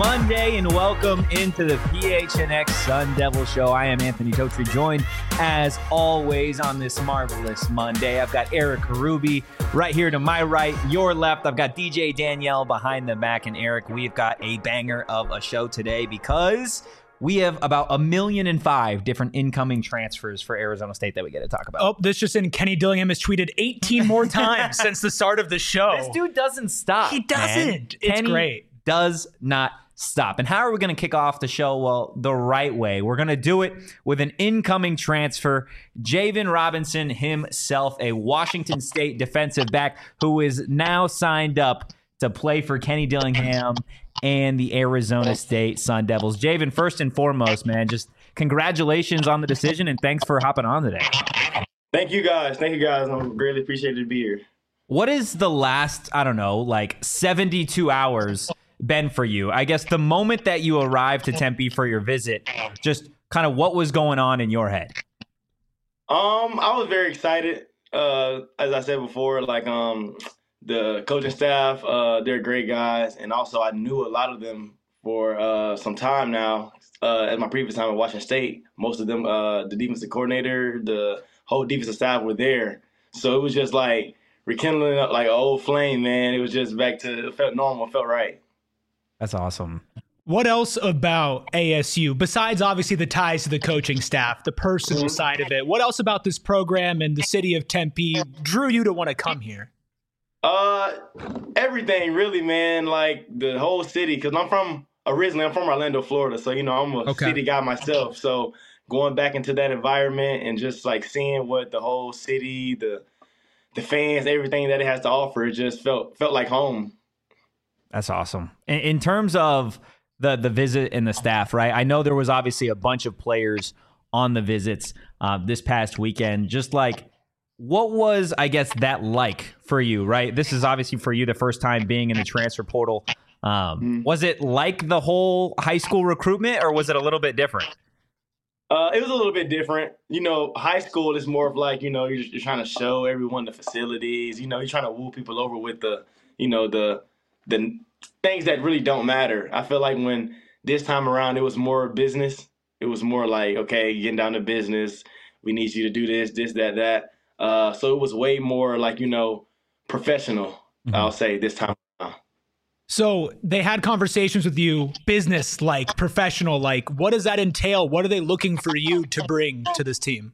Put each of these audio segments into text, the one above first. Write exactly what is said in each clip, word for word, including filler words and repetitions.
Monday, and welcome into the P H N X Sun Devil Show. I am Anthony Totri, joined as always on this marvelous Monday. I've got Eric Ruby right here to my right, your left. I've got D J Danielle behind the back, and Eric, we've got a banger of a show today because we have about a million and five different incoming transfers for Arizona State that we get to talk about. Oh, this just in. Kenny Dillingham has tweeted eighteen more times since the start of the show. This dude doesn't stop. He doesn't. Man. It's Kenny great. Does not stop. And how are we going to kick off the show? Well, the right way. We're going to do it with an incoming transfer, Javen Robinson himself, a Washington State defensive back who is now signed up to play for Kenny Dillingham and the Arizona State Sun Devils. Javen, first and foremost, man, just congratulations on the decision and thanks for hopping on today. Thank you guys. Thank you guys. I'm greatly appreciated to be here. What is the last, I don't know, like seventy-two hours been for you? I guess the moment that you arrived to Tempe for your visit, just kind of what was going on in your head? Um, I was very excited. Uh, as I said before, like um, the coaching staff, uh, they're great guys, and also I knew a lot of them for uh, some time now. Uh, at my previous time at Washington State, most of them, uh, the defensive coordinator, the whole defensive staff were there, so it was just like rekindling up like an old flame, man. It was just back to it felt normal, it felt right. That's awesome. What else about A S U, besides obviously the ties to the coaching staff, the personal side of it? What else about this program and the city of Tempe drew you to want to come here? Uh, everything really, man. Like the whole city, because I'm from originally I'm from Orlando, Florida, so you know I'm a okay. city guy myself. So going back into that environment and just like seeing what the whole city, the the fans, everything that it has to offer, it just felt felt like home. That's awesome. In, in terms of the the visit and the staff, right? I know there was obviously a bunch of players on the visits uh, this past weekend. Just like, what was, I guess, that like for you, right? This is obviously for you the first time being in the transfer portal. Um, mm-hmm. Was it like the whole high school recruitment, or was it a little bit different? Uh, it was a little bit different. You know, high school is more of like, you know, you're, you're trying to show everyone the facilities. You know, you're trying to woo people over with the, you know, the the things that really don't matter. I feel like when this time around, it was more business. It was more like, okay, getting down to business. We need you to do this, this, that, that. Uh, so it was way more like, you know, professional, mm-hmm. I'll say, this time around. So they had conversations with you, business like, professional like. What does that entail? What are they looking for you to bring to this team?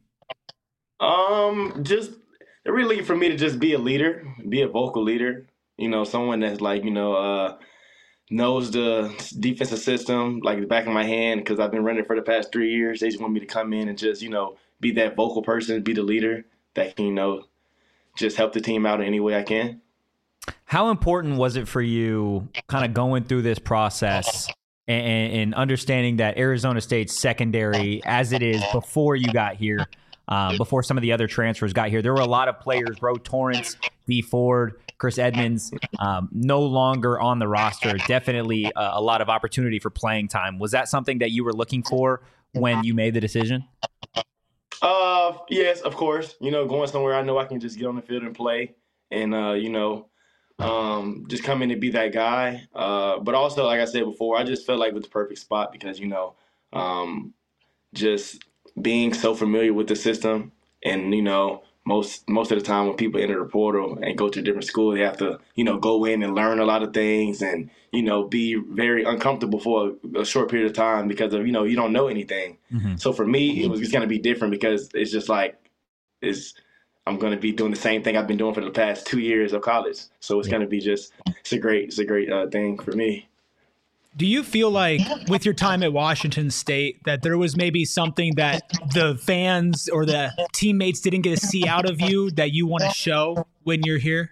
Um, just they're really looking for me to just be a leader, be a vocal leader. You know, someone that's like, you know, uh, knows the defensive system like the back of my hand, because I've been running for the past three years. They just want me to come in and just, you know, be that vocal person, be the leader that can, you know, just help the team out in any way I can. How important was it for you kind of going through this process and, and understanding that Arizona State's secondary, as it is before you got here, um, before some of the other transfers got here, there were a lot of players, Ro Torrance, D. Ford, Chris Edmonds, um, no longer on the roster. Definitely a, a lot of opportunity for playing time. Was that something that you were looking for when you made the decision? Uh, yes, of course. You know, going somewhere I know I can just get on the field and play and, uh, you know, um, just come in and be that guy. Uh, but also, like I said before, I just felt like it was the perfect spot because, you know, um, just being so familiar with the system and, you know, Most most of the time when people enter the portal and go to a different school, they have to, you know, go in and learn a lot of things and, you know, be very uncomfortable for a, a short period of time because of, you know, you don't know anything. Mm-hmm. So for me, it was just going to be different because it's just like, it's, I'm going to be doing the same thing I've been doing for the past two years of college. So it's yeah. going to be just, it's a great, it's a great uh, thing for me. Do you feel like with your time at Washington State that there was maybe something that the fans or the teammates didn't get to see out of you that you want to show when you're here?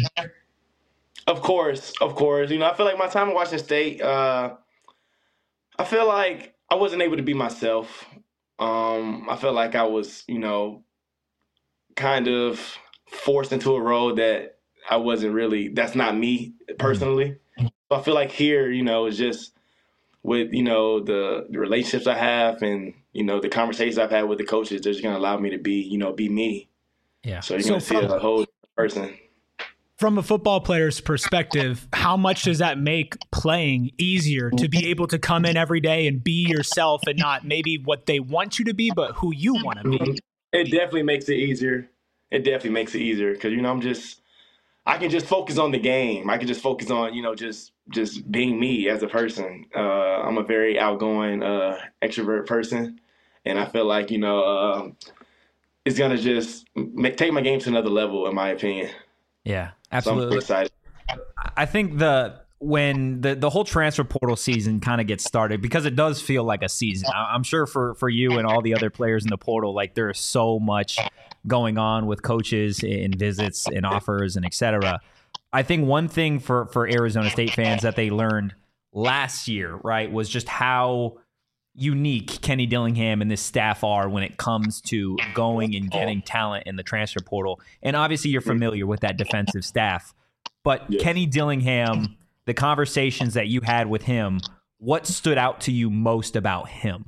Of course, of course. You know, I feel like my time at Washington State, uh, I feel like I wasn't able to be myself. Um, I felt like I was, you know, kind of forced into a role that I wasn't really, that's not me personally. I feel like here, you know, it's just with, you know, the, the relationships I have and, you know, the conversations I've had with the coaches, they're just going to allow me to be, you know, be me. Yeah. So you're so going to see a whole person. from a football player's perspective, how much does that make playing easier to be able to come in every day and be yourself and not maybe what they want you to be, but who you want to be? It definitely makes it easier. It definitely makes it easier because, you know, I'm just, I can just focus on the game. I can just focus on, you know, just just being me as a person. Uh, I'm a very outgoing, uh, extrovert person. And I feel like, you know, uh, it's going to just make, take my game to another level, in my opinion. Yeah, absolutely. So I'm excited. I think the when the, the whole transfer portal season kind of gets started, because it does feel like a season. I'm sure for, for you and all the other players in the portal, like there is so much going on with coaches and visits and offers and et cetera. I think one thing for, for Arizona State fans that they learned last year, right, was just how unique Kenny Dillingham and this staff are when it comes to going and getting talent in the transfer portal. And obviously you're familiar with that defensive staff, but yes. Kenny Dillingham, the conversations that you had with him, what stood out to you most about him?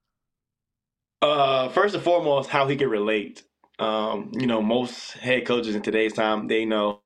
Uh, first and foremost, how he could relate. Um, you know, most head coaches in today's time, they know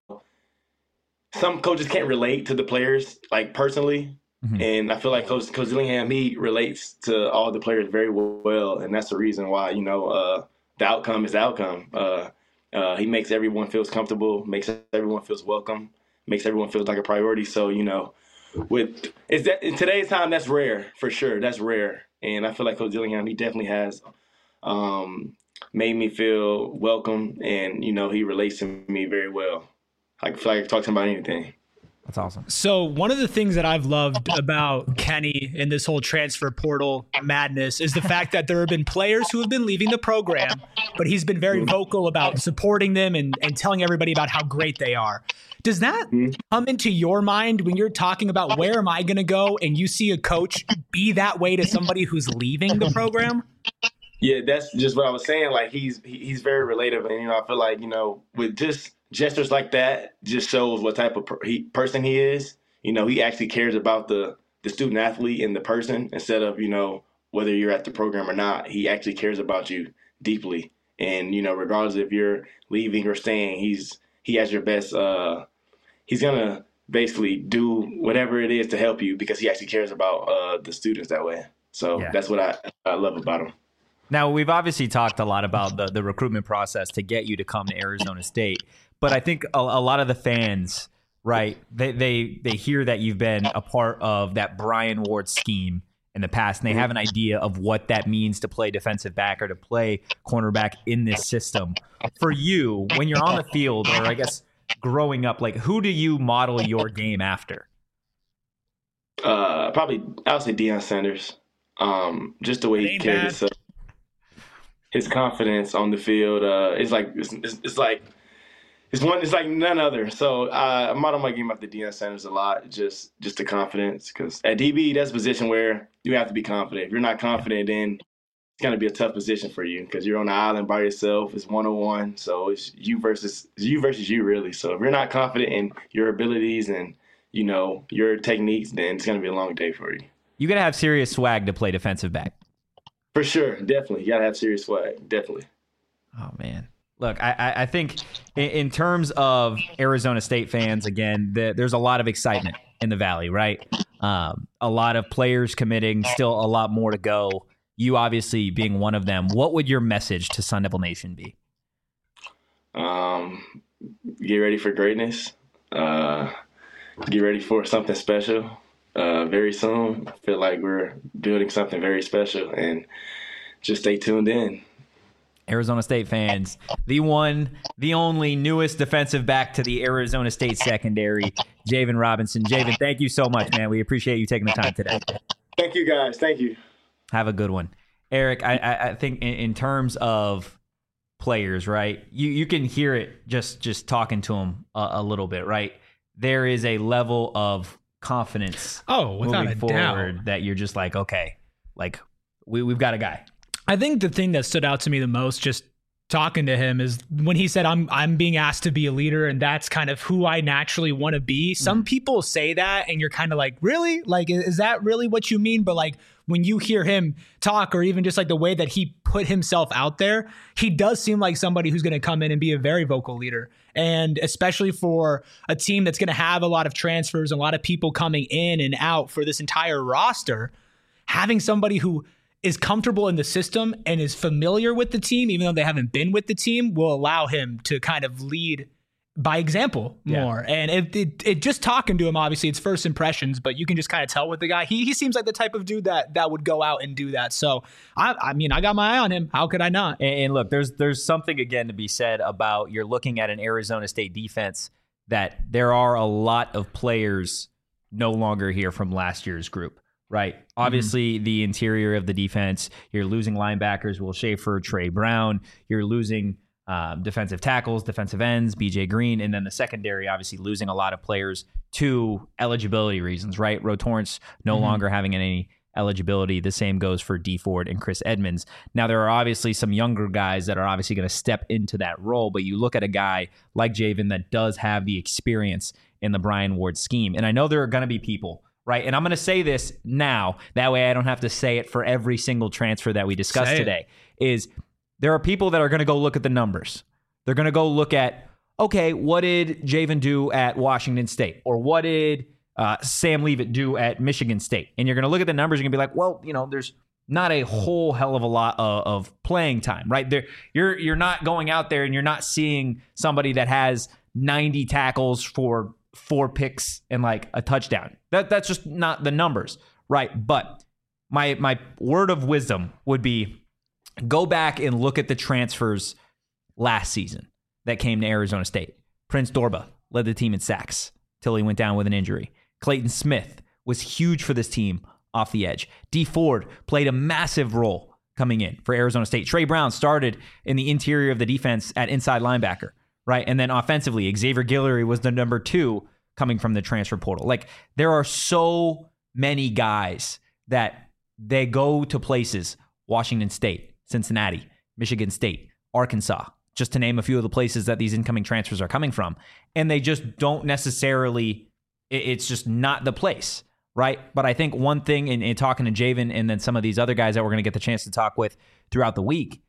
some coaches can't relate to the players, like, personally. Mm-hmm. And I feel like Coach, Coach Dillingham, he relates to all the players very well. And that's the reason why, you know, uh, the outcome is the outcome. Uh, uh, he makes everyone feels comfortable, makes everyone feels welcome, makes everyone feels like a priority. So, you know, with is that in today's time, that's rare for sure. That's rare. And I feel like Coach Dillingham, he definitely has um, made me feel welcome. And, you know, he relates to me very well. I feel like I can talk to him about anything. That's awesome. So one of the things that I've loved about Kenny in this whole transfer portal madness is the fact that there have been players who have been leaving the program, but he's been very vocal about supporting them and, and telling everybody about how great they are. Does that come into your mind when you're talking about where am I going to go and you see a coach be that way to somebody who's leaving the program? Yeah, that's just what I was saying. Like, he's he's very relatable. And, you know, I feel like, you know, with just gestures like that just shows what type of per- he, person he is. You know, he actually cares about the, the student athlete and the person instead of, you know, whether you're at the program or not. He actually cares about you deeply. And, you know, regardless if you're leaving or staying, he's he has your best. Uh, he's going to basically do whatever it is to help you because he actually cares about uh, the students that way. So yeah. That's what I, I love about him. Now, we've obviously talked a lot about the, the recruitment process to get you to come to Arizona State. But I think a, a lot of the fans, right, they, they they hear that you've been a part of that Brian Ward scheme in the past, and they have an idea of what that means to play defensive back or to play cornerback in this system. For you, when you're on the field, or I guess growing up, like, who do you model your game after? Uh, probably, I would say Deion Sanders. Um, just the way he carries himself. His confidence on the field uh, is like it's, it's, it's like it's one. It's like none other. So uh, I model my game after Deion Sanders a lot. Just just the confidence, because at D B that's a position where you have to be confident. If you're not confident, then it's gonna be a tough position for you because you're on the island by yourself. It's one on one, so it's you versus it's you versus you really. So if you're not confident in your abilities and you know your techniques, then it's gonna be a long day for you. You gotta have serious swag to play defensive back. For sure, definitely. You gotta have serious swag, definitely. Oh man, look, I, I think in, in terms of Arizona State fans, again, the, there's a lot of excitement in the Valley, right? Um, a lot of players committing, still a lot more to go. You obviously being one of them. What would your message to Sun Devil Nation be? Um, get ready for greatness. Uh, get ready for something special. Uh, very soon. I feel like we're building something very special, and just stay tuned in. Arizona State fans, the one, the only newest defensive back to the Arizona State secondary, Javen Robinson. Javen, thank you so much, man. We appreciate you taking the time today. Thank you, guys. Thank you. Have a good one. Eric, I, I, I think in, in terms of players, right, you, you can hear it just, just talking to them a, a little bit, right? There is a level of confidence oh without moving a forward doubt that you're just like, okay, like we, we've got a guy. I think the thing that stood out to me the most, just talking to him is when he said, I'm I'm being asked to be a leader, and that's kind of who I naturally want to be. Some mm. people say that, and you're kind of like, really? Like, is that really what you mean? But like, when you hear him talk, or even just like the way that he put himself out there, he does seem like somebody who's going to come in and be a very vocal leader. And especially for a team that's going to have a lot of transfers, a lot of people coming in and out for this entire roster, having somebody who is comfortable in the system and is familiar with the team, even though they haven't been with the team, will allow him to kind of lead by example more. Yeah. And it, it, it just talking to him, obviously it's first impressions, but you can just kind of tell with the guy, he he seems like the type of dude that that would go out and do that. So I, I mean, I got my eye on him. How could I not? And, and look, there's there's something again to be said about you're looking at an Arizona State defense that there are a lot of players no longer here from last year's group. Right. Obviously, mm-hmm. the interior of the defense, you're losing linebackers, Will Schaefer, Trey Brown. You're losing um, defensive tackles, defensive ends, B J Green. And then the secondary, obviously losing a lot of players to eligibility reasons, right? Ro Torrance no mm-hmm. longer having any eligibility. The same goes for D Ford and Chris Edmonds. Now, there are obviously some younger guys that are obviously going to step into that role, but you look at a guy like Javen that does have the experience in the Brian Ward scheme. And I know there are going to be people, right? And I'm going to say this now. That way I don't have to say it for every single transfer that we discussed today. Is there are people that are going to go look at the numbers. They're going to go look at, okay, what did Javen do at Washington State? Or what did uh, Sam Leavitt do at Michigan State? And you're going to look at the numbers. You're going to be like, well, you know, there's not a whole hell of a lot of, of playing time, right? There, you're you're not going out there and you're not seeing somebody that has ninety tackles for four picks and like a touchdown. That that's just not the numbers, right? But my my word of wisdom would be go back and look at the transfers last season that came to Arizona State. Prince Dorba led the team in sacks till he went down with an injury. Clayton Smith was huge for this team off the edge. D Ford played a massive role coming in for Arizona State. Trey Brown started in the interior of the defense at inside linebacker. Right. And then offensively, Xavier Guillory was the number two coming from the transfer portal. Like, there are so many guys that they go to places, Washington State, Cincinnati, Michigan State, Arkansas, just to name a few of the places that these incoming transfers are coming from. And they just don't necessarily, it's just not the place. Right. But I think one thing in, in talking to Javen and then some of these other guys that we're going to get the chance to talk with throughout the week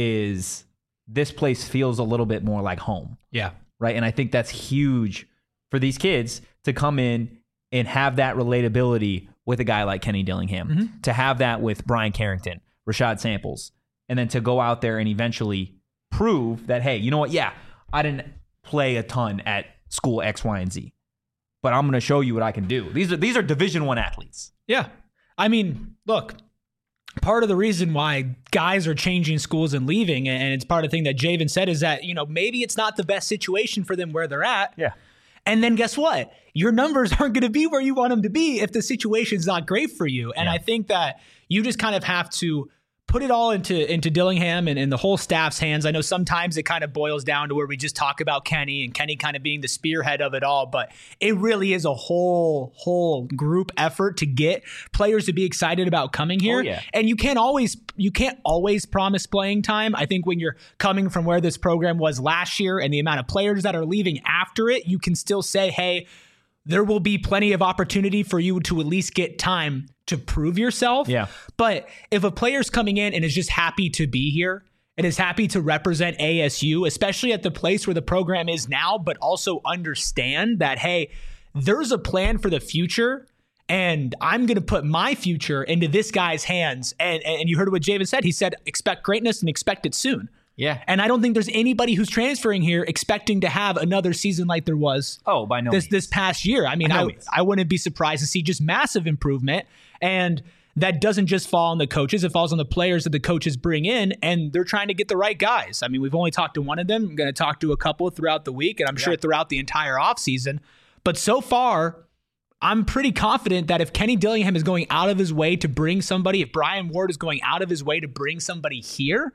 is this place feels a little bit more like home. Yeah. Right. And I think that's huge for these kids to come in and have that relatability with a guy like Kenny Dillingham, mm-hmm. to have that with Brian Carrington, Rashad Samples, and then to go out there and eventually prove that, hey, you know what? Yeah, I didn't play a ton at school X, Y, and Z, but I'm going to show you what I can do. These are these are Division One athletes. Yeah. I mean, look, part of the reason why guys are changing schools and leaving, and it's part of the thing that Javen said, is that, you know, maybe it's not the best situation for them where they're at. Yeah. And then guess what? Your numbers aren't going to be where you want them to be if the situation's not great for you. And yeah. I think that you just kind of have to put it all into into Dillingham and, and the whole staff's hands. I know sometimes it kind of boils down to where we just talk about Kenny and Kenny kind of being the spearhead of it all, but it really is a whole, whole group effort to get players to be excited about coming here. Oh, yeah. And you can't always, you can't always promise playing time. I think when you're coming from where this program was last year and the amount of players that are leaving after it, you can still say, hey, there will be plenty of opportunity for you to at least get time to prove yourself. Yeah. But if a player's coming in and is just happy to be here and is happy to represent A S U, especially at the place where the program is now, but also understand that, hey, there's a plan for the future and I'm going to put my future into this guy's hands. And, and you heard what Javen said. He said, expect greatness and expect it soon. Yeah. And I don't think there's anybody who's transferring here expecting to have another season like there was oh, by no this means. this past year. I mean, no I, means. I wouldn't be surprised to see just massive improvement. And that doesn't just fall on the coaches. It falls on the players that the coaches bring in, and they're trying to get the right guys. I mean, we've only talked to one of them. I'm going to talk to a couple throughout the week, and I'm yeah. sure throughout the entire offseason. But so far, I'm pretty confident that if Kenny Dillingham is going out of his way to bring somebody, if Brian Ward is going out of his way to bring somebody here,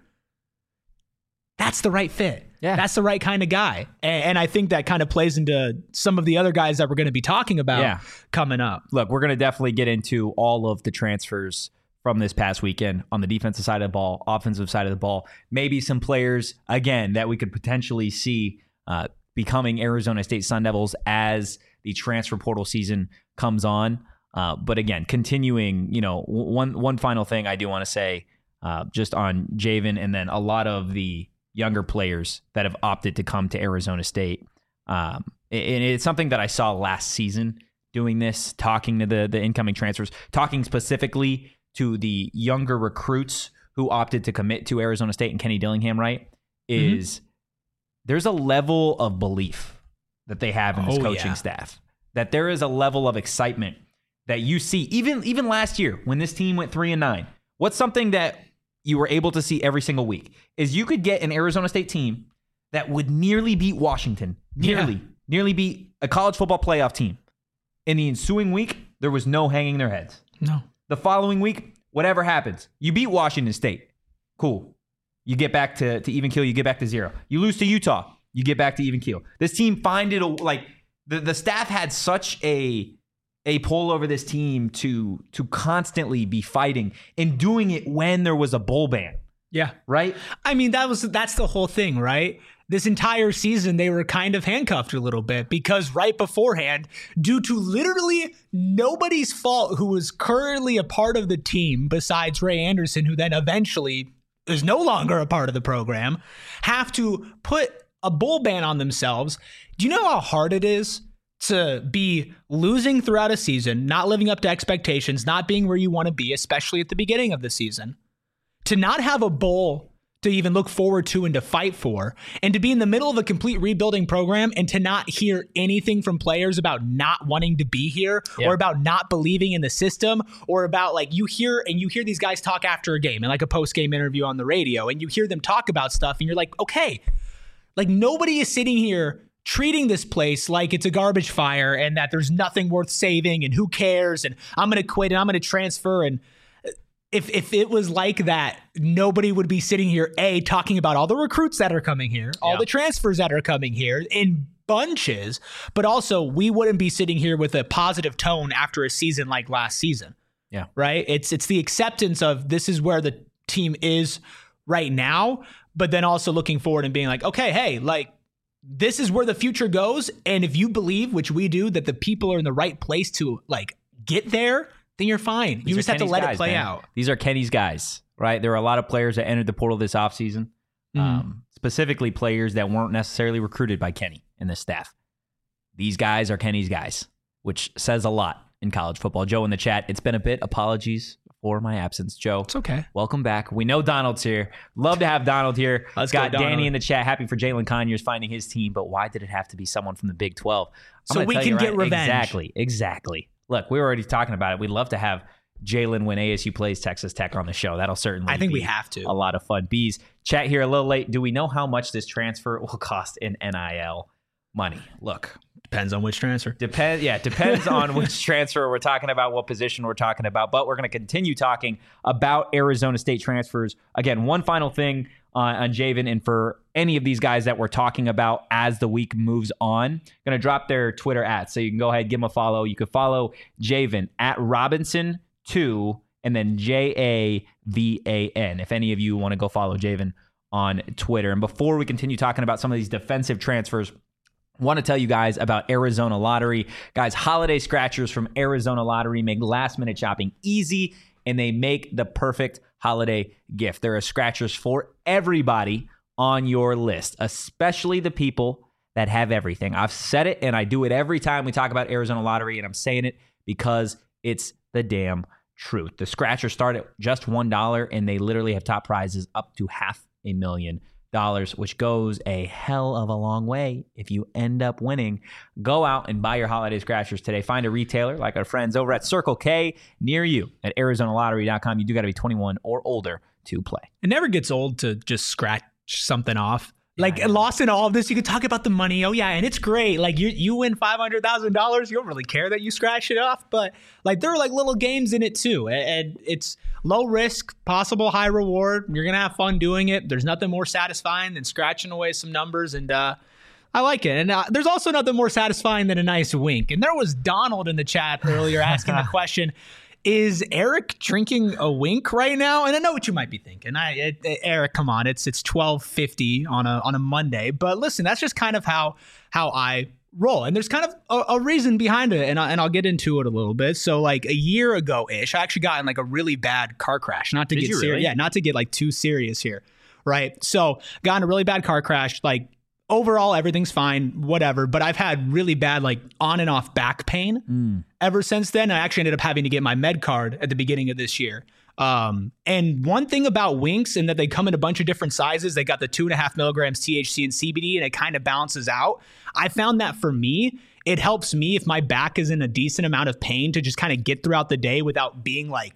that's the right fit. Yeah. That's the right kind of guy. And, and I think that kind of plays into some of the other guys that we're going to be talking about yeah. coming up. Look, we're going to definitely get into all of the transfers from this past weekend on the defensive side of the ball, offensive side of the ball. Maybe some players, again, that we could potentially see uh, becoming Arizona State Sun Devils as the transfer portal season comes on. Uh, but again, continuing, you know, one one final thing I do want to say uh, just on Javen and then a lot of the younger players that have opted to come to Arizona State. Um, and it's something that I saw last season doing this, talking to the, the incoming transfers, talking specifically to the younger recruits who opted to commit to Arizona State and Kenny Dillingham, right? Is mm-hmm. there's a level of belief that they have in this oh, coaching yeah. staff, that there is a level of excitement that you see even even last year when this team went three and nine. What's something that you were able to see every single week is you could get an Arizona State team that would nearly beat Washington, nearly, yeah. nearly beat a college football playoff team. In the ensuing week, there was no hanging their heads. No. The following week, whatever happens, you beat Washington State. Cool. You get back to, to even keel, you get back to zero. You lose to Utah, you get back to even keel. This team find it, like, the, the staff had such a a pull over this team to to constantly be fighting and doing it when there was a bowl ban. Yeah. Right? I mean, that was that's the whole thing, right? This entire season, they were kind of handcuffed a little bit because right beforehand, due to literally nobody's fault who was currently a part of the team besides Ray Anderson, who then eventually is no longer a part of the program, have to put a bowl ban on themselves. Do you know how hard it is to be losing throughout a season, not living up to expectations, not being where you want to be, especially at the beginning of the season, to not have a bowl to even look forward to and to fight for, and to be in the middle of a complete rebuilding program and to not hear anything from players about not wanting to be here yeah. or about not believing in the system or about like you hear and you hear these guys talk after a game and like a post-game interview on the radio and you hear them talk about stuff and you're like, okay, like nobody is sitting here treating this place like it's a garbage fire and that there's nothing worth saving and who cares and I'm going to quit and I'm going to transfer. And if if it was like that, nobody would be sitting here, A, talking about all the recruits that are coming here, all yeah. the transfers that are coming here in bunches, but also we wouldn't be sitting here with a positive tone after a season like last season. Yeah. Right? It's it's the acceptance of this is where the team is right now, but then also looking forward and being like, okay, hey, like, this is where the future goes. And if you believe, which we do, that the people are in the right place to like get there, then you're fine. These you just have Kenny's to let guys, it play man. out. These are Kenny's guys, right? There are a lot of players that entered the portal this offseason, mm. um, specifically players that weren't necessarily recruited by Kenny and the staff. These guys are Kenny's guys, which says a lot in college football. Joe in the chat, it's been a bit. Apologies for my absence, Joe. It's okay. Welcome back. We know Donald's here. Love to have Donald here. Let's Got go, Danny in the chat. Happy for Jalen Conyers finding his team, but why did it have to be someone from the Big twelve? I'm so we can get right, revenge. Exactly. Exactly. Look, we were already talking about it. We'd love to have Jalen when A S U plays Texas Tech on the show. That'll certainly I think be we have to. A lot of fun. Bees, chat here a little late. Do we know how much this transfer will cost in N I L money? Look. Depends on which transfer. Depends, yeah, depends on which transfer we're talking about, what position we're talking about. But we're going to continue talking about Arizona State transfers. Again, one final thing on, on Javen and for any of these guys that we're talking about as the week moves on, going to drop their Twitter at. So you can go ahead, give them a follow. You can follow Javen at Robinson two and then J A V A N if any of you want to go follow Javen on Twitter. And before we continue talking about some of these defensive transfers, want to tell you guys about Arizona Lottery. Guys, holiday scratchers from Arizona Lottery make last-minute shopping easy, and they make the perfect holiday gift. There are scratchers for everybody on your list, especially the people that have everything. I've said it, and I do it every time we talk about Arizona Lottery, and I'm saying it because it's the damn truth. The scratchers start at just one dollar, and they literally have top prizes up to half a million dollars, which goes a hell of a long way if you end up winning. Go out and buy your holiday scratchers today. Find a retailer like our friends over at Circle K near you at Arizona Lottery dot com. You do got to be twenty-one or older to play. It never gets old to just scratch something off. Like, yeah, lost in all of this, you could talk about the money. Oh, yeah, and it's great. Like, you you win five hundred thousand dollars. You don't really care that you scratch it off. But, like, there are, like, little games in it, too. And it's low risk, possible high reward. You're going to have fun doing it. There's nothing more satisfying than scratching away some numbers. And uh, I like it. And uh, there's also nothing more satisfying than a nice wink. And there was Donald in the chat earlier asking the question, is Eric drinking a Wink right now? And I know what you might be thinking. I, it, it, Eric, come on, it's it's twelve fifty on a on a Monday. But listen, that's just kind of how how I roll, and there's kind of a, a reason behind it, and I, and I'll get into it a little bit. So like a year ago ish, I actually got in like a really bad car crash. Not to Did get you serious, really? yeah, not to get like too serious here, right? So got in a really bad car crash, like. Overall, everything's fine, whatever. But I've had really bad, like, on and off back pain Mm. ever since then. I actually ended up having to get my med card at the beginning of this year. Um, and one thing about Winks, and that they come in a bunch of different sizes. They got the two and a half milligrams T H C and C B D, and it kind of balances out. I found that for me, it helps me if my back is in a decent amount of pain to just kind of get throughout the day without being like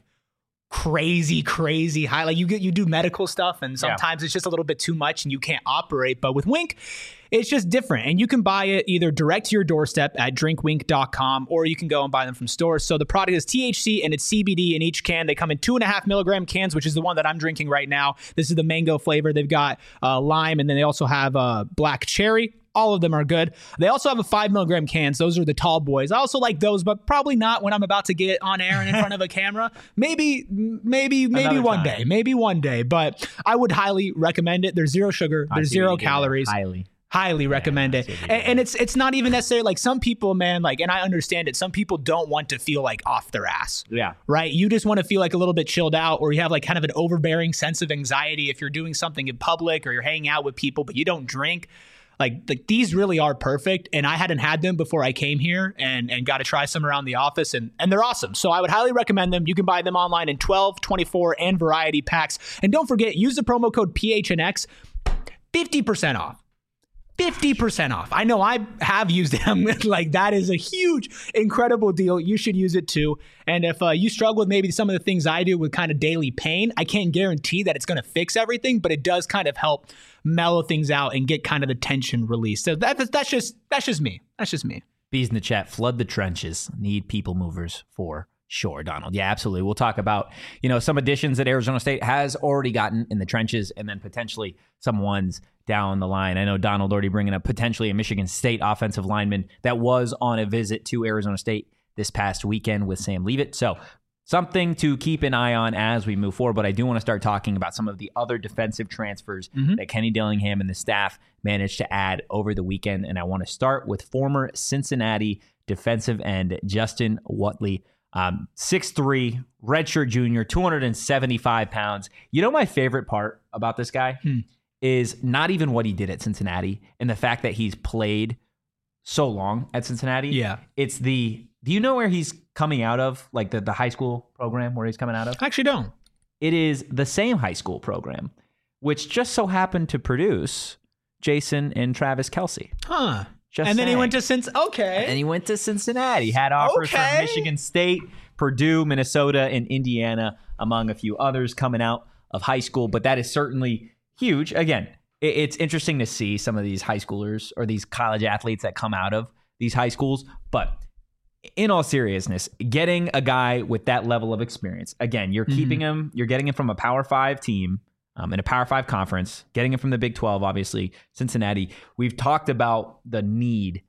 crazy, crazy high. Like you get, you do medical stuff, and sometimes yeah. it's just a little bit too much and you can't operate. But with Wink, it's just different. And you can buy it either direct to your doorstep at drink wink dot com, or you can go and buy them from stores. So the product is T H C and it's C B D in each can. They come in two and a half milligram cans, which is the one that I'm drinking right now. This is the mango flavor. They've got uh, lime, and then they also have uh, black cherry. All of them are good. They also have a five milligram cans. Those are the tall boys. I also like those, but probably not when I'm about to get on air and in front of a camera. Maybe, maybe, maybe Another one time. day. Maybe one day. But I would highly recommend it. There's zero sugar. There's zero calories. Highly. Highly recommend Yeah, it. And, and it's it's not even necessarily like some people, man, like, and I understand it. Some people don't want to feel like off their ass. Yeah. Right? You just want to feel like a little bit chilled out, or you have like kind of an overbearing sense of anxiety if you're doing something in public or you're hanging out with people, but you don't drink. Like, like these really are perfect, and I hadn't had them before I came here and, and got to try some around the office, and, and they're awesome. So I would highly recommend them. You can buy them online in twelve, twenty-four, and variety packs. And don't forget, use the promo code P H N X, fifty percent off. fifty percent off. I know I have used them. Like, that is a huge, incredible deal. You should use it too. And if uh, you struggle with maybe some of the things I do with kind of daily pain, I can't guarantee that it's going to fix everything, but it does kind of help mellow things out and get kind of the tension released. So that, that's just that's just me. That's just me. Bees in the chat, flood the trenches. Need people movers for sure, Donald. Yeah, absolutely. We'll talk about, you know, some additions that Arizona State has already gotten in the trenches, and then potentially some ones down the line. I know Donald already bringing up potentially a Michigan State offensive lineman that was on a visit to Arizona State this past weekend with Sam Leavitt. So something to keep an eye on as we move forward. But I do want to start talking about some of the other defensive transfers mm-hmm. that Kenny Dillingham and the staff managed to add over the weekend. And I want to start with former Cincinnati defensive end Justin Whatley. Um, six three, redshirt junior, two hundred seventy-five pounds. You know, my favorite part about this guy hmm. is not even what he did at Cincinnati and the fact that he's played so long at Cincinnati. Yeah. It's the, do you know where he's coming out of? Like the, the high school program where he's coming out of? I actually don't. It is the same high school program, which just so happened to produce Jason and Travis Kelce. Huh. Just and then saying. he went to Cincinnati. Okay. And he went to Cincinnati. Had offers okay. from Michigan State, Purdue, Minnesota, and Indiana, among a few others coming out of high school. But that is certainly huge. Again, it's interesting to see some of these high schoolers or these college athletes that come out of these high schools. But in all seriousness, getting a guy with that level of experience, again, you're mm-hmm. keeping him, you're getting him from a Power Five team. Um, in a Power Five conference, getting him from the Big twelve, obviously, Cincinnati. We've talked about the need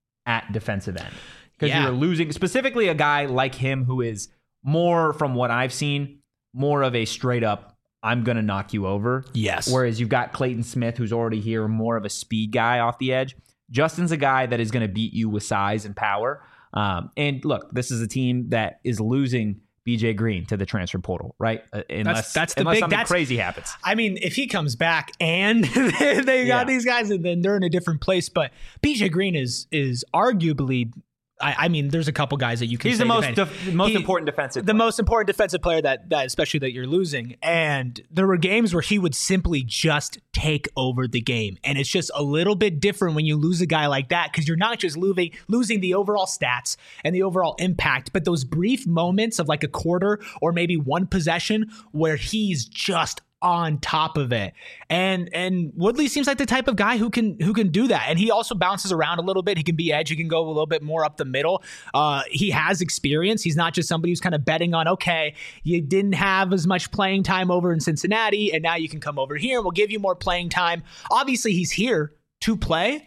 at defensive end because yeah. you're losing specifically a guy like him who is more, from what I've seen, more of a straight up, I'm going to knock you over. Yes. Whereas you've got Clayton Smith, who's already here, more of a speed guy off the edge. Justin's a guy that is going to beat you with size and power. Um, and look, this is a team that is losing B J Green to the transfer portal, right? Uh, unless that's, that's the unless big, something that's, crazy happens. I mean, if he comes back and they, they got yeah. these guys, and then they're in a different place. But B J Green is is arguably, I, I mean, there's a couple guys that you can. He's say the most def- def- most he, important defensive. The player. most important defensive player that that especially that you're losing. And there were games where he would simply just take over the game, and it's just a little bit different when you lose a guy like that because you're not just losing losing the overall stats and the overall impact, but those brief moments of like a quarter or maybe one possession where he's just on top of it. And and Woodley seems like the type of guy who can who can do that. And he also bounces around a little bit. He can be edge. He can go a little bit more up the middle. Uh, he has experience. He's not just somebody who's kind of betting on, okay, you didn't have as much playing time over in Cincinnati, and now you can come over here and we'll give you more playing time. Obviously, he's here to play.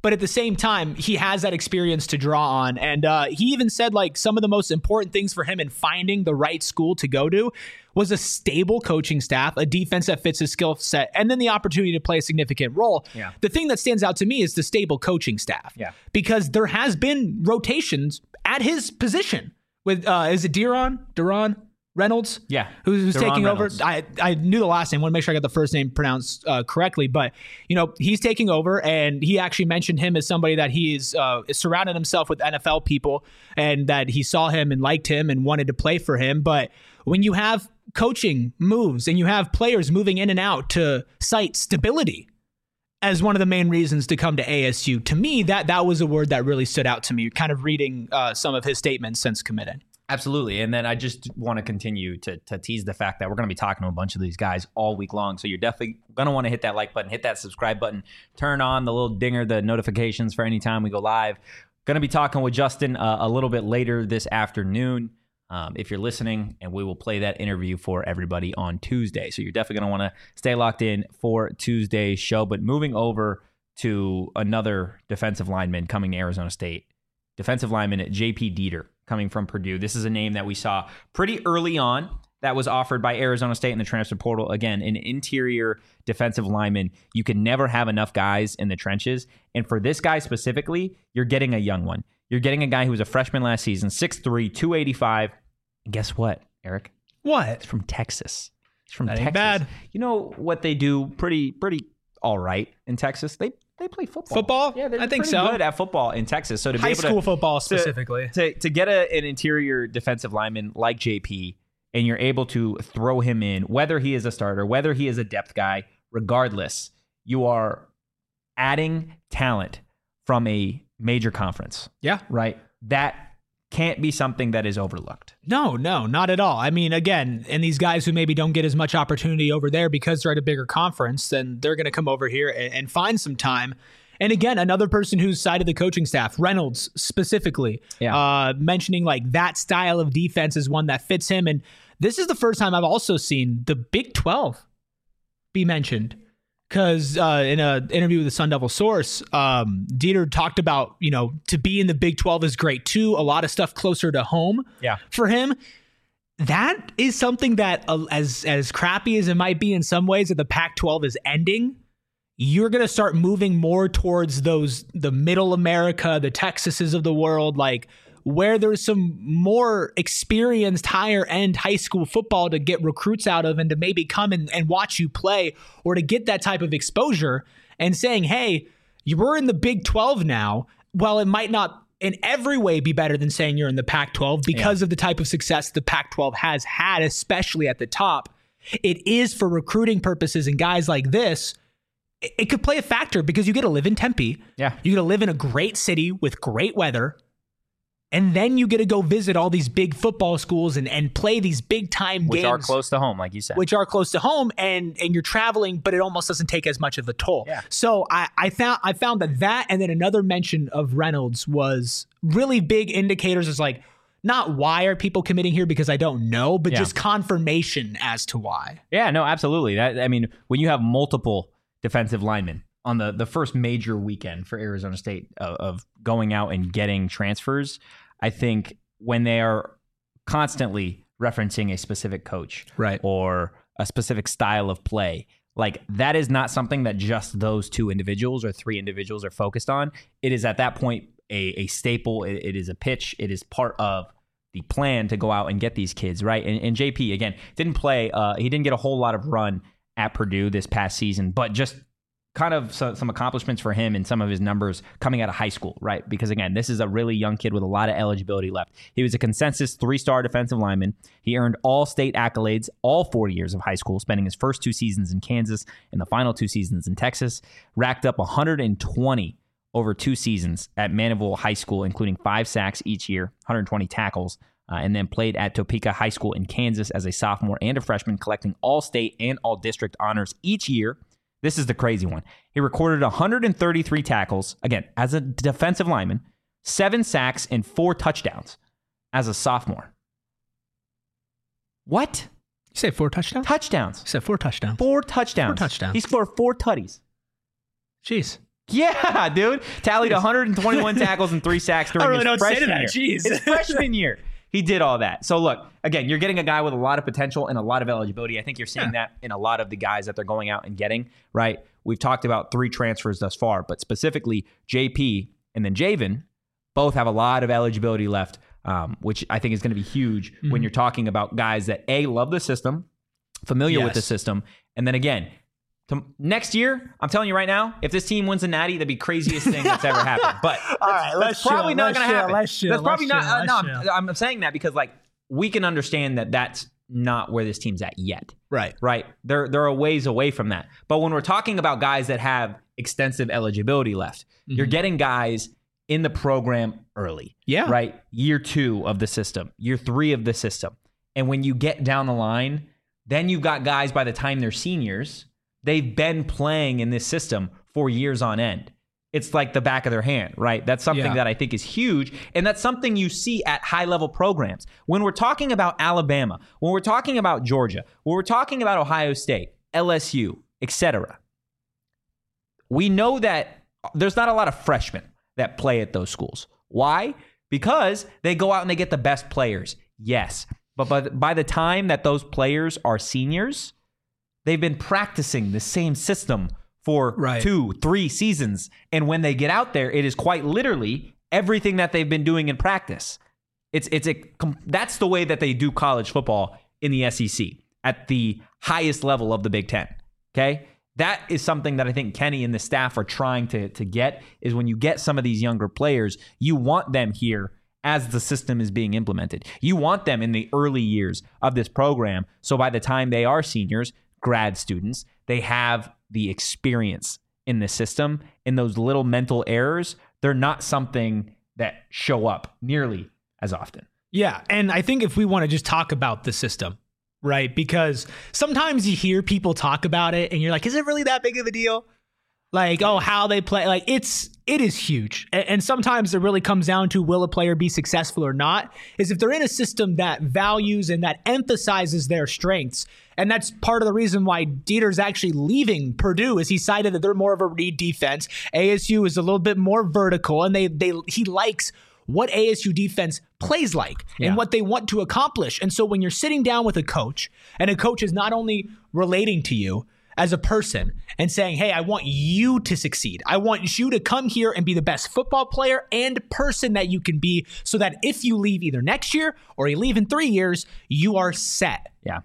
But at the same time, he has that experience to draw on. And uh, he even said like some of the most important things for him in finding the right school to go to was a stable coaching staff, a defense that fits his skill set, and then the opportunity to play a significant role. Yeah. The thing that stands out to me is the stable coaching staff. Yeah. Because there has been rotations at his position with, uh, is it Deron? Deron? Reynolds, Yeah. who's, who's Deron taking Reynolds. over. I, I knew the last name. Want to make sure I got the first name pronounced uh, correctly. But you know, he's taking over, and he actually mentioned him as somebody that he is uh, surrounded himself with N F L people, and that he saw him and liked him and wanted to play for him. But when you have coaching moves and you have players moving in and out to cite stability as one of the main reasons to come to A S U, to me that that was a word that really stood out to me. Kind of reading uh, some of his statements since committing. Absolutely. And then I just want to continue to, to tease the fact that we're going to be talking to a bunch of these guys all week long. So you're definitely going to want to hit that like button, hit that subscribe button, turn on the little dinger, the notifications for any time we go live. Going to be talking with Justin uh, a little bit later this afternoon. Um, if you're listening, and we will play that interview for everybody on Tuesday. So you're definitely going to want to stay locked in for Tuesday's show. But moving over to another defensive lineman coming to Arizona State, defensive lineman J P Dieter, coming from Purdue. This is a name that we saw pretty early on that was offered by Arizona State in the transfer portal. Again, an interior defensive lineman. You can never have enough guys in the trenches. And for this guy specifically, you're getting a young one. You're getting a guy who was a freshman last season, six three, two eighty-five. And guess what, Eric? What? It's from Texas. It's from That Texas. ain't bad. You know what they do pretty, pretty all right in Texas? They they play football. Football? Yeah, they're I think pretty so. good at football in Texas. So to be High able to school football specifically. to, to get a, an interior defensive lineman like J P, and you're able to throw him in, whether he is a starter, whether he is a depth guy, regardless, you are adding talent from a major conference, Yeah. right? That can't be something that is overlooked. No, no, not at all. I mean, again, and these guys who maybe don't get as much opportunity over there because they're at a bigger conference, then they're going to come over here and, and find some time. And again, another person who's sided the coaching staff, Reynolds specifically, Yeah. uh, mentioning like that style of defense is one that fits him. And this is the first time I've also seen the Big twelve be mentioned. Because uh, in an interview with the Sun Devil Source, um, Dieter talked about, you know, to be in the Big twelve is great too. A lot of stuff closer to home Yeah. for him. That is something that, uh, as as crappy as it might be in some ways, that the Pac twelve is ending. You're going to start moving more towards those, the middle America, the Texases of the world, like where there's some more experienced higher end high school football to get recruits out of and to maybe come and, and watch you play, or to get that type of exposure and saying, hey, you were in the Big twelve now. Well, it might not in every way be better than saying you're in the Pac twelve because yeah. of the type of success the Pac twelve has had, especially at the top. It is for recruiting purposes, and guys like this, it, it could play a factor because you get to live in Tempe. Yeah. You get to live in a great city with great weather. And then you get to go visit all these big football schools and, and play these big time Which games. are close to home, like you said. Which are close to home, and and you're traveling, but it almost doesn't take as much of a toll. Yeah. So I, I found I found that that and then another mention of Reynolds was really big indicators. Is like, not why are people committing here because I don't know, but Yeah. just confirmation as to why. Yeah, no, absolutely. That, I mean, when you have multiple defensive linemen on the, the first major weekend for Arizona State of, of going out and getting transfers, I think when they are constantly referencing a specific coach Right. or a specific style of play, like that is not something that just those two individuals or three individuals are focused on. It is at that point a, a staple. It, it is a pitch. It is part of the plan to go out and get these kids, right? And, and J P, again, didn't play. Uh, he didn't get a whole lot of run at Purdue this past season, but just kind of so, some accomplishments for him and some of his numbers coming out of high school, right? Because again, this is a really young kid with a lot of eligibility left. He was a consensus three-star defensive lineman. He earned all state accolades all four years of high school, spending his first two seasons in Kansas and the final two seasons in Texas. Racked up one hundred twenty over two seasons at Mandeville High School, including five sacks each year, one hundred twenty tackles, uh, and then played at Topeka High School in Kansas as a sophomore and a freshman, collecting all state and all district honors each year. This is the crazy one. He recorded one hundred thirty-three tackles, again, as a defensive lineman, seven sacks, and four touchdowns as a sophomore. What? You say four touchdowns? Touchdowns. You said four touchdowns. Four touchdowns. Four touchdowns. He scored four tutties. Jeez. Yeah, dude. Tallied one hundred twenty-one tackles and three sacks during I really his don't say to freshman that. year. Jeez. His freshman year. He did all that. So look, again, you're getting a guy with a lot of potential and a lot of eligibility. I think you're seeing Yeah. that in a lot of the guys that they're going out and getting, right? We've talked about three transfers thus far, but specifically J P and then Javen both have a lot of eligibility left, um, which I think is going to be huge mm-hmm. when you're talking about guys that, A, love the system, familiar yes. with the system, and then again, to, next year, I'm telling you right now, if this team wins a natty, that'd be craziest thing that's ever happened. But that's, All right, that's probably chill, not going to happen. Let's chill, that's probably let's not. chill, Uh, no, I'm, I'm saying that because like we can understand that that's not where this team's at yet. Right, right. They're they're a ways away from that. But when we're talking about guys that have extensive eligibility left, mm-hmm. you're getting guys in the program early. Yeah. Right. Year two of the system, year three of the system, and when you get down the line, then you've got guys by the time they're seniors. They've been playing in this system for years on end. It's like the back of their hand, right? That's something yeah. that I think is huge. And that's something you see at high-level programs. When we're talking about Alabama, when we're talking about Georgia, when we're talking about Ohio State, L S U, et cetera, we know that there's not a lot of freshmen that play at those schools. Why? Because they go out and they get the best players. Yes. But by the, by the time that those players are seniors, they've been practicing the same system for right. two, three seasons. And when they get out there, it is quite literally everything that they've been doing in practice. It's it's a that's the way that they do college football in the S E C at the highest level of the Big Ten. Okay? That is something that I think Kenny and the staff are trying to, to get, is when you get some of these younger players, you want them here as the system is being implemented. You want them in the early years of this program, so by the time they are seniors, grad students, they have the experience in the system, and those little mental errors, they're not something that show up nearly as often. Yeah, and I think if we want to just talk about the system, right? Because sometimes you hear people talk about it and you're like, is it really that big of a deal? Like, oh, how they play, like it's, it is huge. And, and sometimes it really comes down to, will a player be successful or not? Is if they're in a system that values and that emphasizes their strengths. And that's part of the reason why Dieter's actually leaving Purdue, is he cited that they're more of a read defense. A S U is a little bit more vertical, and they they he likes what A S U defense plays like yeah. and what they want to accomplish. And so when you're sitting down with a coach, and a coach is not only relating to you as a person and saying, hey, I want you to succeed. I want you to come here and be the best football player and person that you can be, so that if you leave either next year or you leave in three years, you are set. Yeah.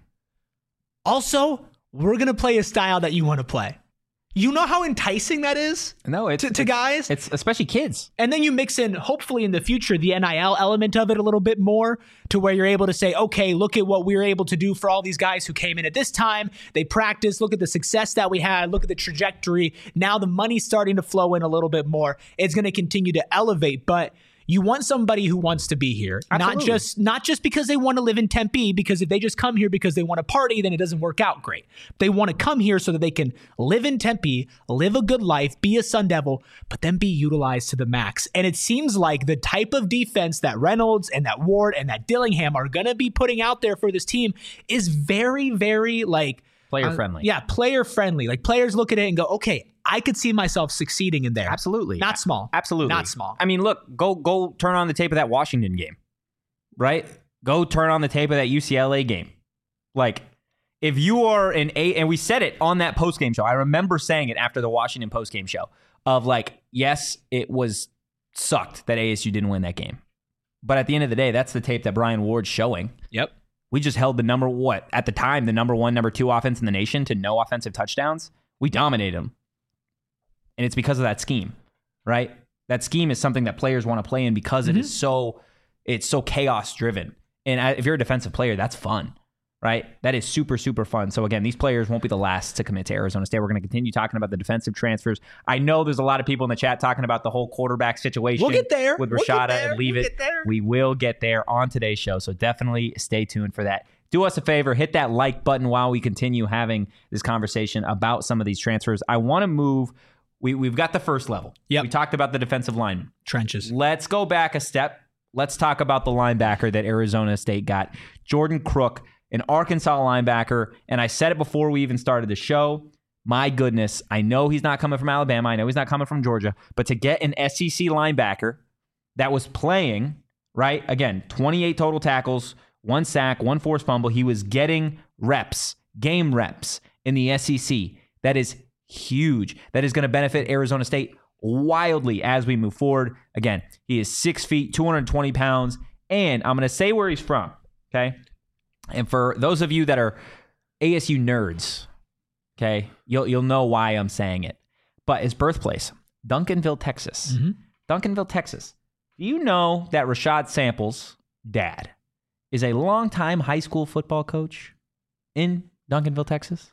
Also, we're going to play a style that you want to play. You know how enticing that is no, it's, to, to it's, guys? It's especially kids. And then you mix in, hopefully in the future, the N I L element of it a little bit more, to where you're able to say, okay, look at what we were able to do for all these guys who came in at this time. They practiced. Look at the success that we had. Look at the trajectory. Now the money's starting to flow in a little bit more. It's going to continue to elevate, but you want somebody who wants to be here, Absolutely. not just not just because they want to live in Tempe, because if they just come here because they want to party, then it doesn't work out great. They want to come here so that they can live in Tempe, live a good life, be a Sun Devil, but then be utilized to the max. And it seems like the type of defense that Reynolds and that Ward and that Dillingham are going to be putting out there for this team is very, very like player friendly. Uh, yeah, player friendly. Like players look at it and go, okay, I could see myself succeeding in there. Absolutely. Not small. Absolutely. Not small. I mean, look, go go turn on the tape of that Washington game, right? Go turn on the tape of that U C L A game. Like, if you are an A, and we said it on that postgame show. I remember saying it after the Washington postgame show of like, yes, it was sucked that A S U didn't win that game. But at the end of the day, that's the tape that Brian Ward's showing. Yep. We just held the number, what, at the time, the number one, number two offense in the nation to no offensive touchdowns. We dominated them. And it's because of that scheme, right? That scheme is something that players want to play in because mm-hmm. it is so, it's so chaos driven. And if you're a defensive player, that's fun, right? That is super, super fun. So again, these players won't be the last to commit to Arizona State. We're going to continue talking about the defensive transfers. I know there's a lot of people in the chat talking about the whole quarterback situation. We'll get there. With We'll Rashada there. and leave we'll it. We will get there on today's show. So definitely stay tuned for that. Do us a favor, hit that like button while we continue having this conversation about some of these transfers. I want to move. We, we've got the first level. Yep. We talked about the defensive lineman. Trenches. Let's go back a step. Let's talk about the linebacker that Arizona State got. Jordan Crook, an Arkansas linebacker. And I said it before we even started the show. My goodness, I know he's not coming from Alabama. I know he's not coming from Georgia. But to get an S E C linebacker that was playing, right, again, twenty-eight total tackles, one sack, one forced fumble. He was getting reps, game reps in the S E C. That is huge. That is going to benefit Arizona State wildly as we move forward. Again, he is six feet, two hundred twenty pounds, and I'm going to say where he's from, okay? And for those of you that are A S U nerds, okay, you'll you'll know why I'm saying it. But his birthplace, Duncanville, Texas. Mm-hmm. Duncanville, Texas. Do you know that Rashad Samples' dad is a longtime high school football coach in Duncanville, Texas?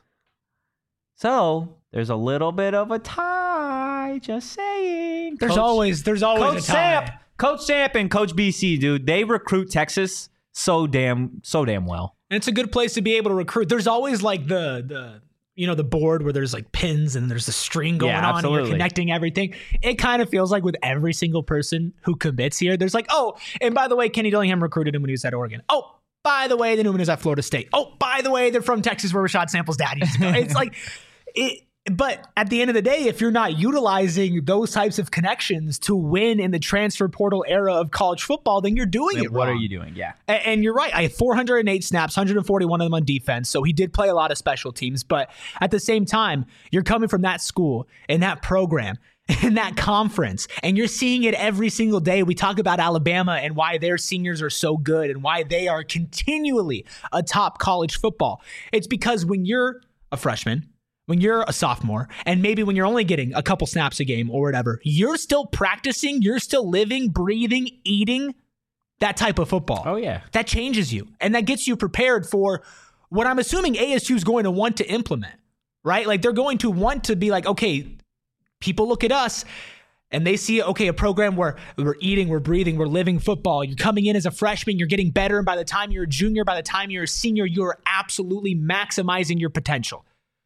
So there's a little bit of a tie, just saying. There's Coach, always there's always Coach a tie. Samp, Coach Samp and Coach B C, dude, they recruit Texas so damn so damn well. And it's a good place to be able to recruit. There's always like the the you know the board where there's like pins and there's the string going Yeah, on and you're absolutely. connecting everything. It kind of feels like with every single person who commits here, there's like, oh, and by the way, Kenny Dillingham recruited him when he was at Oregon. Oh, by the way, they knew him when he was at Florida State. Oh, by the way, they're from Texas where Rashad Samples' dad used to go. It's like it. But at the end of the day, if you're not utilizing those types of connections to win in the transfer portal era of college football, then you're doing it What wrong. are you doing? Yeah. And, and you're right. I had four hundred eight snaps, one hundred forty-one of them on defense. So he did play a lot of special teams. But at the same time, you're coming from that school and that program in that conference, and you're seeing it every single day. We talk about Alabama and why their seniors are so good and why they are continually atop college football. It's because when you're a freshman, when you're a sophomore, and maybe when you're only getting a couple snaps a game or whatever, you're still practicing, you're still living, breathing, eating that type of football. Oh, yeah. That changes you, and that gets you prepared for what I'm assuming A S U is going to want to implement, right? Like they're going to want to be like, okay, people look at us and they see, okay, a program where we're eating, we're breathing, we're living football. You're coming in as a freshman, you're getting better, and by the time you're a junior, by the time you're a senior, you're absolutely maximizing your potential.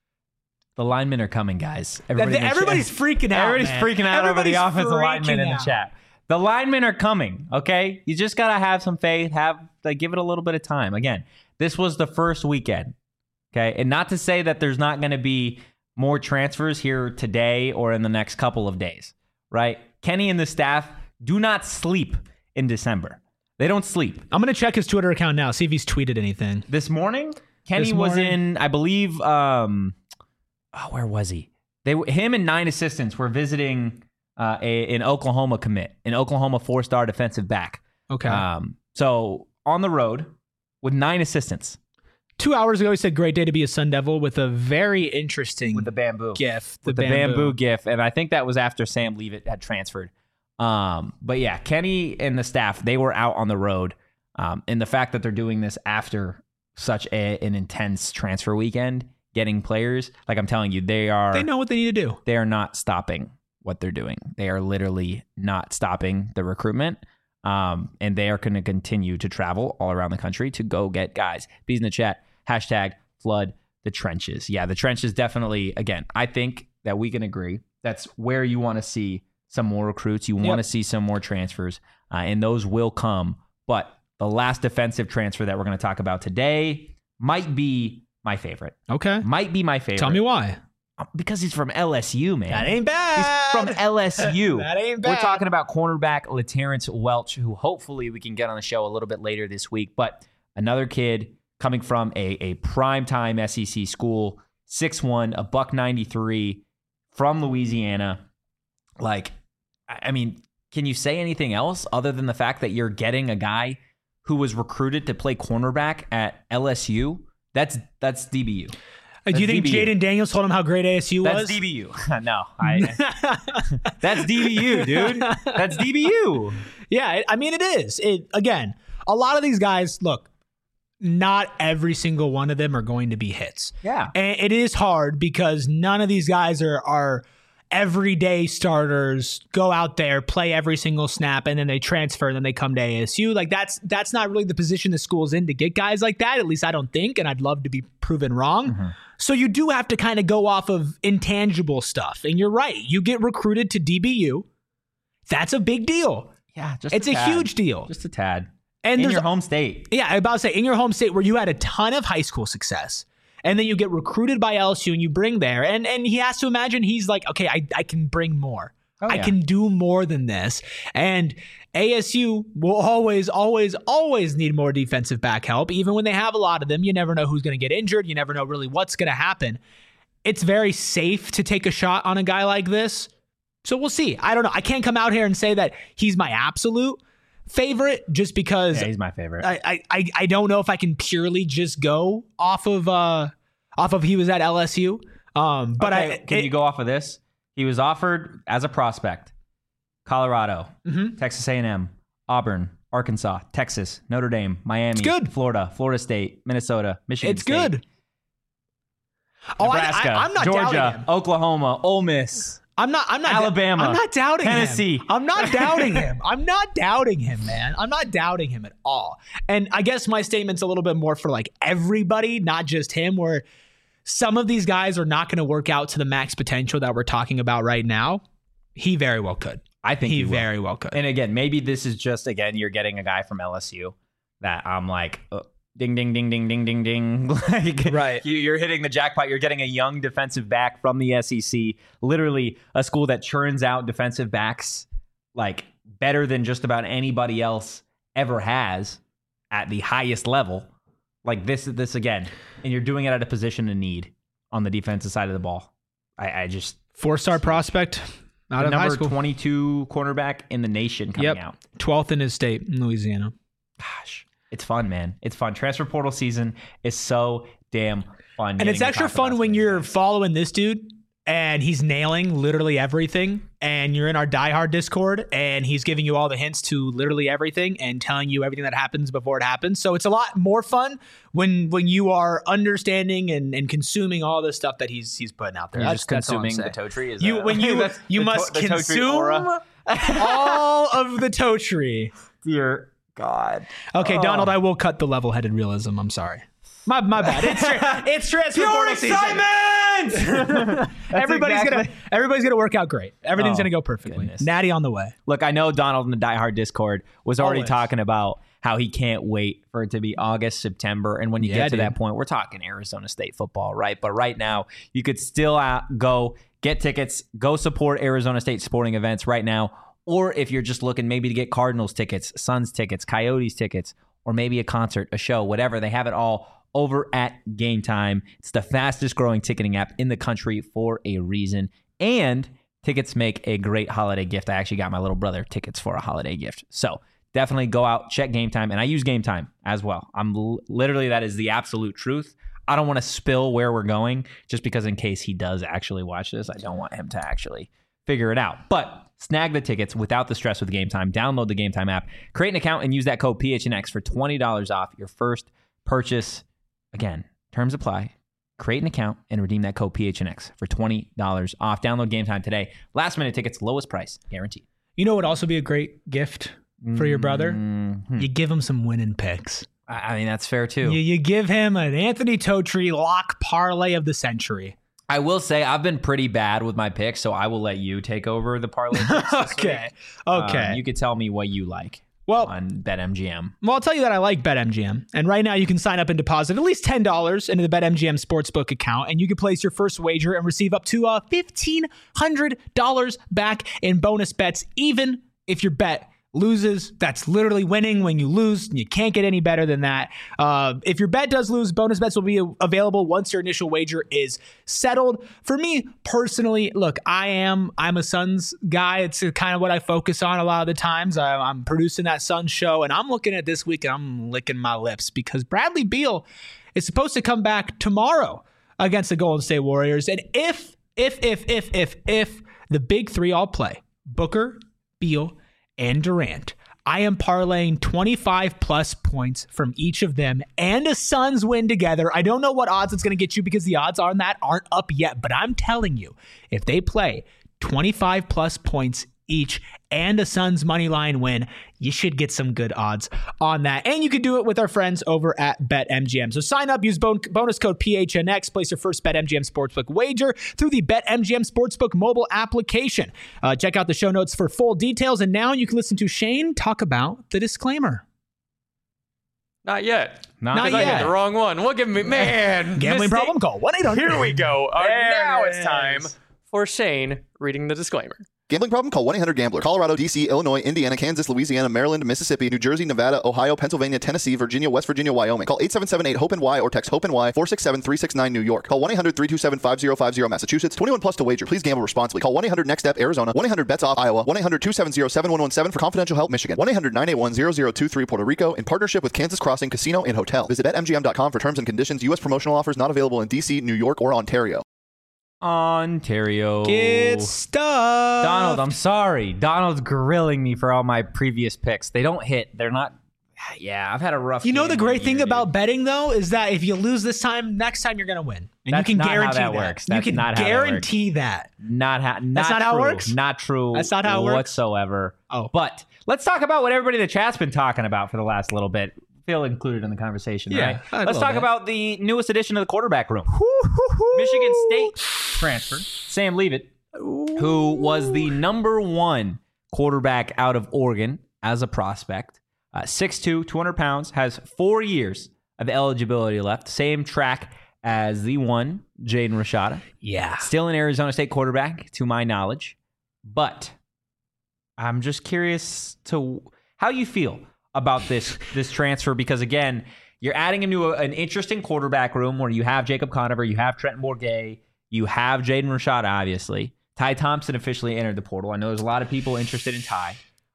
The linemen are coming, guys. Everybody in the Everybody's chat. freaking out. Everybody's man. freaking out Everybody's over the offensive freaking linemen in the out. chat. The linemen are coming, okay? You just got to have some faith, have like give it a little bit of time. Again, this was the first weekend, okay? And not to say that there's not going to be more transfers here today or in the next couple of days, right? Kenny and the staff do not sleep in December. They don't sleep. I'm going to check his Twitter account now, see if he's tweeted anything. This morning, Kenny This was morning? in, I believe, um, oh, where was he? They, him and nine assistants were visiting uh, a, an Oklahoma commit, an Oklahoma four-star defensive back. Okay. Um, so on the road with nine assistants Two hours ago, he said, great day to be a Sun Devil with a very interesting with the bamboo, gif. with the bamboo. gif, and I think that was after Sam Leavitt had transferred. Um, but yeah, Kenny and the staff, they were out on the road, um, and the fact that they're doing this after such a, an intense transfer weekend, getting players, like I'm telling you, they are They know what they need to do. they are not stopping what they're doing. They are literally not stopping the recruitment. Um, and they are going to continue to travel all around the country to go get guys. Bees in the chat, hashtag flood the trenches. Yeah, the trenches definitely, again, I think that we can agree that's where you want to see some more recruits. You want Yep. to see some more transfers, uh, and those will come. But the last defensive transfer that we're going to talk about today might be my favorite. Okay. Might be my favorite. Tell me why. Because he's from L S U, man. That ain't bad. He's from L S U. That ain't We're bad. talking about cornerback LaTerrence Welch, who hopefully we can get on the show a little bit later this week. But another kid coming from a, a primetime S E C school, six one, a buck ninety-three, from Louisiana. Like, I I mean, can you say anything else other than the fact that you're getting a guy who was recruited to play cornerback at L S U? That's that's D B U. Uh, Do you That's think D B U. Jaden Daniels told him how great A S U That's was? D B U. No, I. That's D B U, dude. That's D B U. Yeah, it, I mean, it is. It again, a lot of these guys, look, not every single one of them are going to be hits. Yeah. And it is hard because none of these guys are are everyday starters, go out there, play every single snap, and then they transfer and then they come to A S U. Like that's that's not really the position the school's in to get guys like that. At least I don't think, and I'd love to be proven wrong. Mm-hmm. So you do have to kind of go off of intangible stuff. And you're right. You get recruited to D B U. That's a big deal. Yeah, just It's a tad. huge deal. Just a tad. And In there's your home state. Yeah, I was about to say, in your home state where you had a ton of high school success and then you get recruited by L S U and you bring there, and and he has to imagine he's like, okay, I, I can bring more. Oh, yeah. I can do more than this. And A S U will always, always, always need more defensive back help. Even when they have a lot of them, you never know who's going to get injured. You never know really what's going to happen. It's very safe to take a shot on a guy like this. So we'll see. I don't know. I can't come out here and say that he's my absolute favorite just because yeah, he's my favorite. I, I, I don't know if I can purely just go off of uh off of he was at L S U. Um, but okay, I can it, you go off of this? He was offered as a prospect, Colorado, mm-hmm. Texas A and M, Auburn, Arkansas, Texas, Notre Dame, Miami, it's good. Florida, Florida State, Minnesota, Michigan it's State. It's good. Nebraska, oh, I, I, I'm not Georgia, Oklahoma, Ole Miss. I'm not. I'm not. Alabama. I'm not doubting Tennessee. him. I'm not doubting him. I'm not doubting him, man. I'm not doubting him at all. And I guess my statement's a little bit more for like everybody, not just him. Where some of these guys are not going to work out to the max potential that we're talking about right now. He very well could. I think he, he very well could. And again, maybe this is just again you're getting a guy from L S U that I'm like. Uh, Ding, ding, ding, ding, ding, ding, ding. Like, right. You, you're hitting the jackpot. You're getting a young defensive back from the S E C, literally a school that churns out defensive backs like better than just about anybody else ever has at the highest level. Like this, this again, and you're doing it at a position of need on the defensive side of the ball. I, I just four-star prospect out of high school, number twenty-two cornerback in the nation coming yep. out, twelfth in his state in Louisiana. Gosh. It's fun, man. It's fun. Transfer portal season is so damn fun. And it's extra fun when you're guys. following this dude and he's nailing literally everything. And you're in our diehard Discord and he's giving you all the hints to literally everything and telling you everything that happens before it happens. So it's a lot more fun when when you are understanding and, and consuming all the stuff that he's he's putting out there. You're that's, just consuming the toe tree. Is you that, when you you must to- consume all of the toe tree. Dear God. Okay, oh. Donald, I will cut the level-headed realism. I'm sorry. My my bad. It's tra- it's transfer portal excitement. everybody's exactly. gonna everybody's gonna work out great. Everything's oh, gonna go perfectly. Goodness. Natty on the way. Look, I know Donald in the Die Hard Discord was already Always. talking about how he can't wait for it to be August, September, and when you yeah, get to dude. that point, we're talking Arizona State football, right? But right now, you could still uh, go get tickets, go support Arizona State sporting events right now. Or if you're just looking maybe to get Cardinals tickets, Suns tickets, Coyotes tickets, or maybe a concert, a show, whatever, they have it all over at Game Time. It's the fastest growing ticketing app in the country for a reason. And tickets make a great holiday gift. I actually got my little brother tickets for a holiday gift. So definitely go out, check Game Time. And I use Game Time as well. I'm l- literally, that is the absolute truth. I don't want to spill where we're going just because in case he does actually watch this, I don't want him to actually figure it out. But snag the tickets without the stress with Game Time. Download the Game Time app, create an account, and use that code P H N X for twenty dollars off your first purchase. Again, terms apply. Create an account and redeem that code P H N X for twenty dollars off. Download Game Time today. Last minute tickets, lowest price, guaranteed. You know what would also be a great gift for your brother? Mm-hmm. You give him some winning picks. I mean, that's fair too. You, you give him an Anthony Totri lock parlay of the century. I will say I've been pretty bad with my picks, so I will let you take over the parlay picks. okay. Okay. Um, you could tell me what you like well, on BetMGM. Well, I'll tell you that I like BetMGM. And right now you can sign up and deposit at least ten dollars into the BetMGM Sportsbook account, and you can place your first wager and receive up to uh, fifteen hundred dollars back in bonus bets, even if your bet loses. That's literally winning when you lose. You can't get any better than that. Uh, if your bet does lose, bonus bets will be available once your initial wager is settled. For me personally, look, I am I'm a Suns guy. It's kind of what I focus on a lot of the times. I, I'm producing that Suns show, and I'm looking at this week and I'm licking my lips because Bradley Beal is supposed to come back tomorrow against the Golden State Warriors. And if if if if if if the big three all play, Booker, Beal, and Durant, I am parlaying twenty-five plus points from each of them and a Suns win together. I don't know what odds it's going to get you because the odds on that aren't up yet, but I'm telling you, if they play twenty-five plus points each and a Suns money line win, you should get some good odds on that. And you can do it with our friends over at BetMGM. So sign up, use bon- bonus code P H N X, place your first BetMGM Sportsbook wager through the BetMGM Sportsbook mobile application. Uh, check out the show notes for full details. And now you can listen to Shane talk about the disclaimer. Not yet. Not, Not Because I yet. hit the wrong one. Look at me, man. Gambling Mistake. problem? Call one eight hundred. Here we go. Uh, There now it it's time is. for Shane reading the disclaimer. Gambling problem? Call one eight hundred gambler. Colorado, D C, Illinois, Indiana, Kansas, Louisiana, Maryland, Mississippi, New Jersey, Nevada, Ohio, Pennsylvania, Tennessee, Virginia, West Virginia, Wyoming. Call eight seven seven eight hope N Y or text hope N Y four six seven three six nine New York. Call one eight hundred three two seven five zero five zero Massachusetts. twenty-one plus to wager. Please gamble responsibly. Call one eight hundred next step Arizona. one eight hundred bets off Iowa. one eight hundred two seven zero seven one one seven for confidential help Michigan. one eight hundred nine eight one zero zero two three Puerto Rico in partnership with Kansas Crossing Casino and Hotel. Visit bet M G M dot com for terms and conditions. U S promotional offers not available in D C, New York, or Ontario. Ontario. Get stuff. Donald, I'm sorry. Donald's grilling me for all my previous picks. They don't hit. They're not. Yeah, I've had a rough. You know game the great all thing year, about dude. betting though is that if you lose this time, next time you're gonna win, and That's you can not how guarantee that works. You That's can not how that guarantee that. Not ha- not That's not how it true. works? Not true. That's not how it works? whatsoever. Oh. But let's talk about what everybody in the chat's been talking about for the last little bit. Feel included in the conversation, Yeah, right? a Let's little talk bit. about the newest addition of the quarterback room. Michigan State transfer, Sam Leavitt, who was the number one quarterback out of Oregon as a prospect. Uh, six two, two hundred pounds, has four years of eligibility left. Same track as the one, Jaden Rashada. Yeah. Still an Arizona State quarterback, to my knowledge. But I'm just curious to how you feel about this this transfer, because, again, you're adding him to a, an interesting quarterback room where you have Jacob Conover, you have Trenton Bourguet, you have Jaden Rashada, obviously. Ty Thompson officially entered the portal. I know there's a lot of people interested in Ty.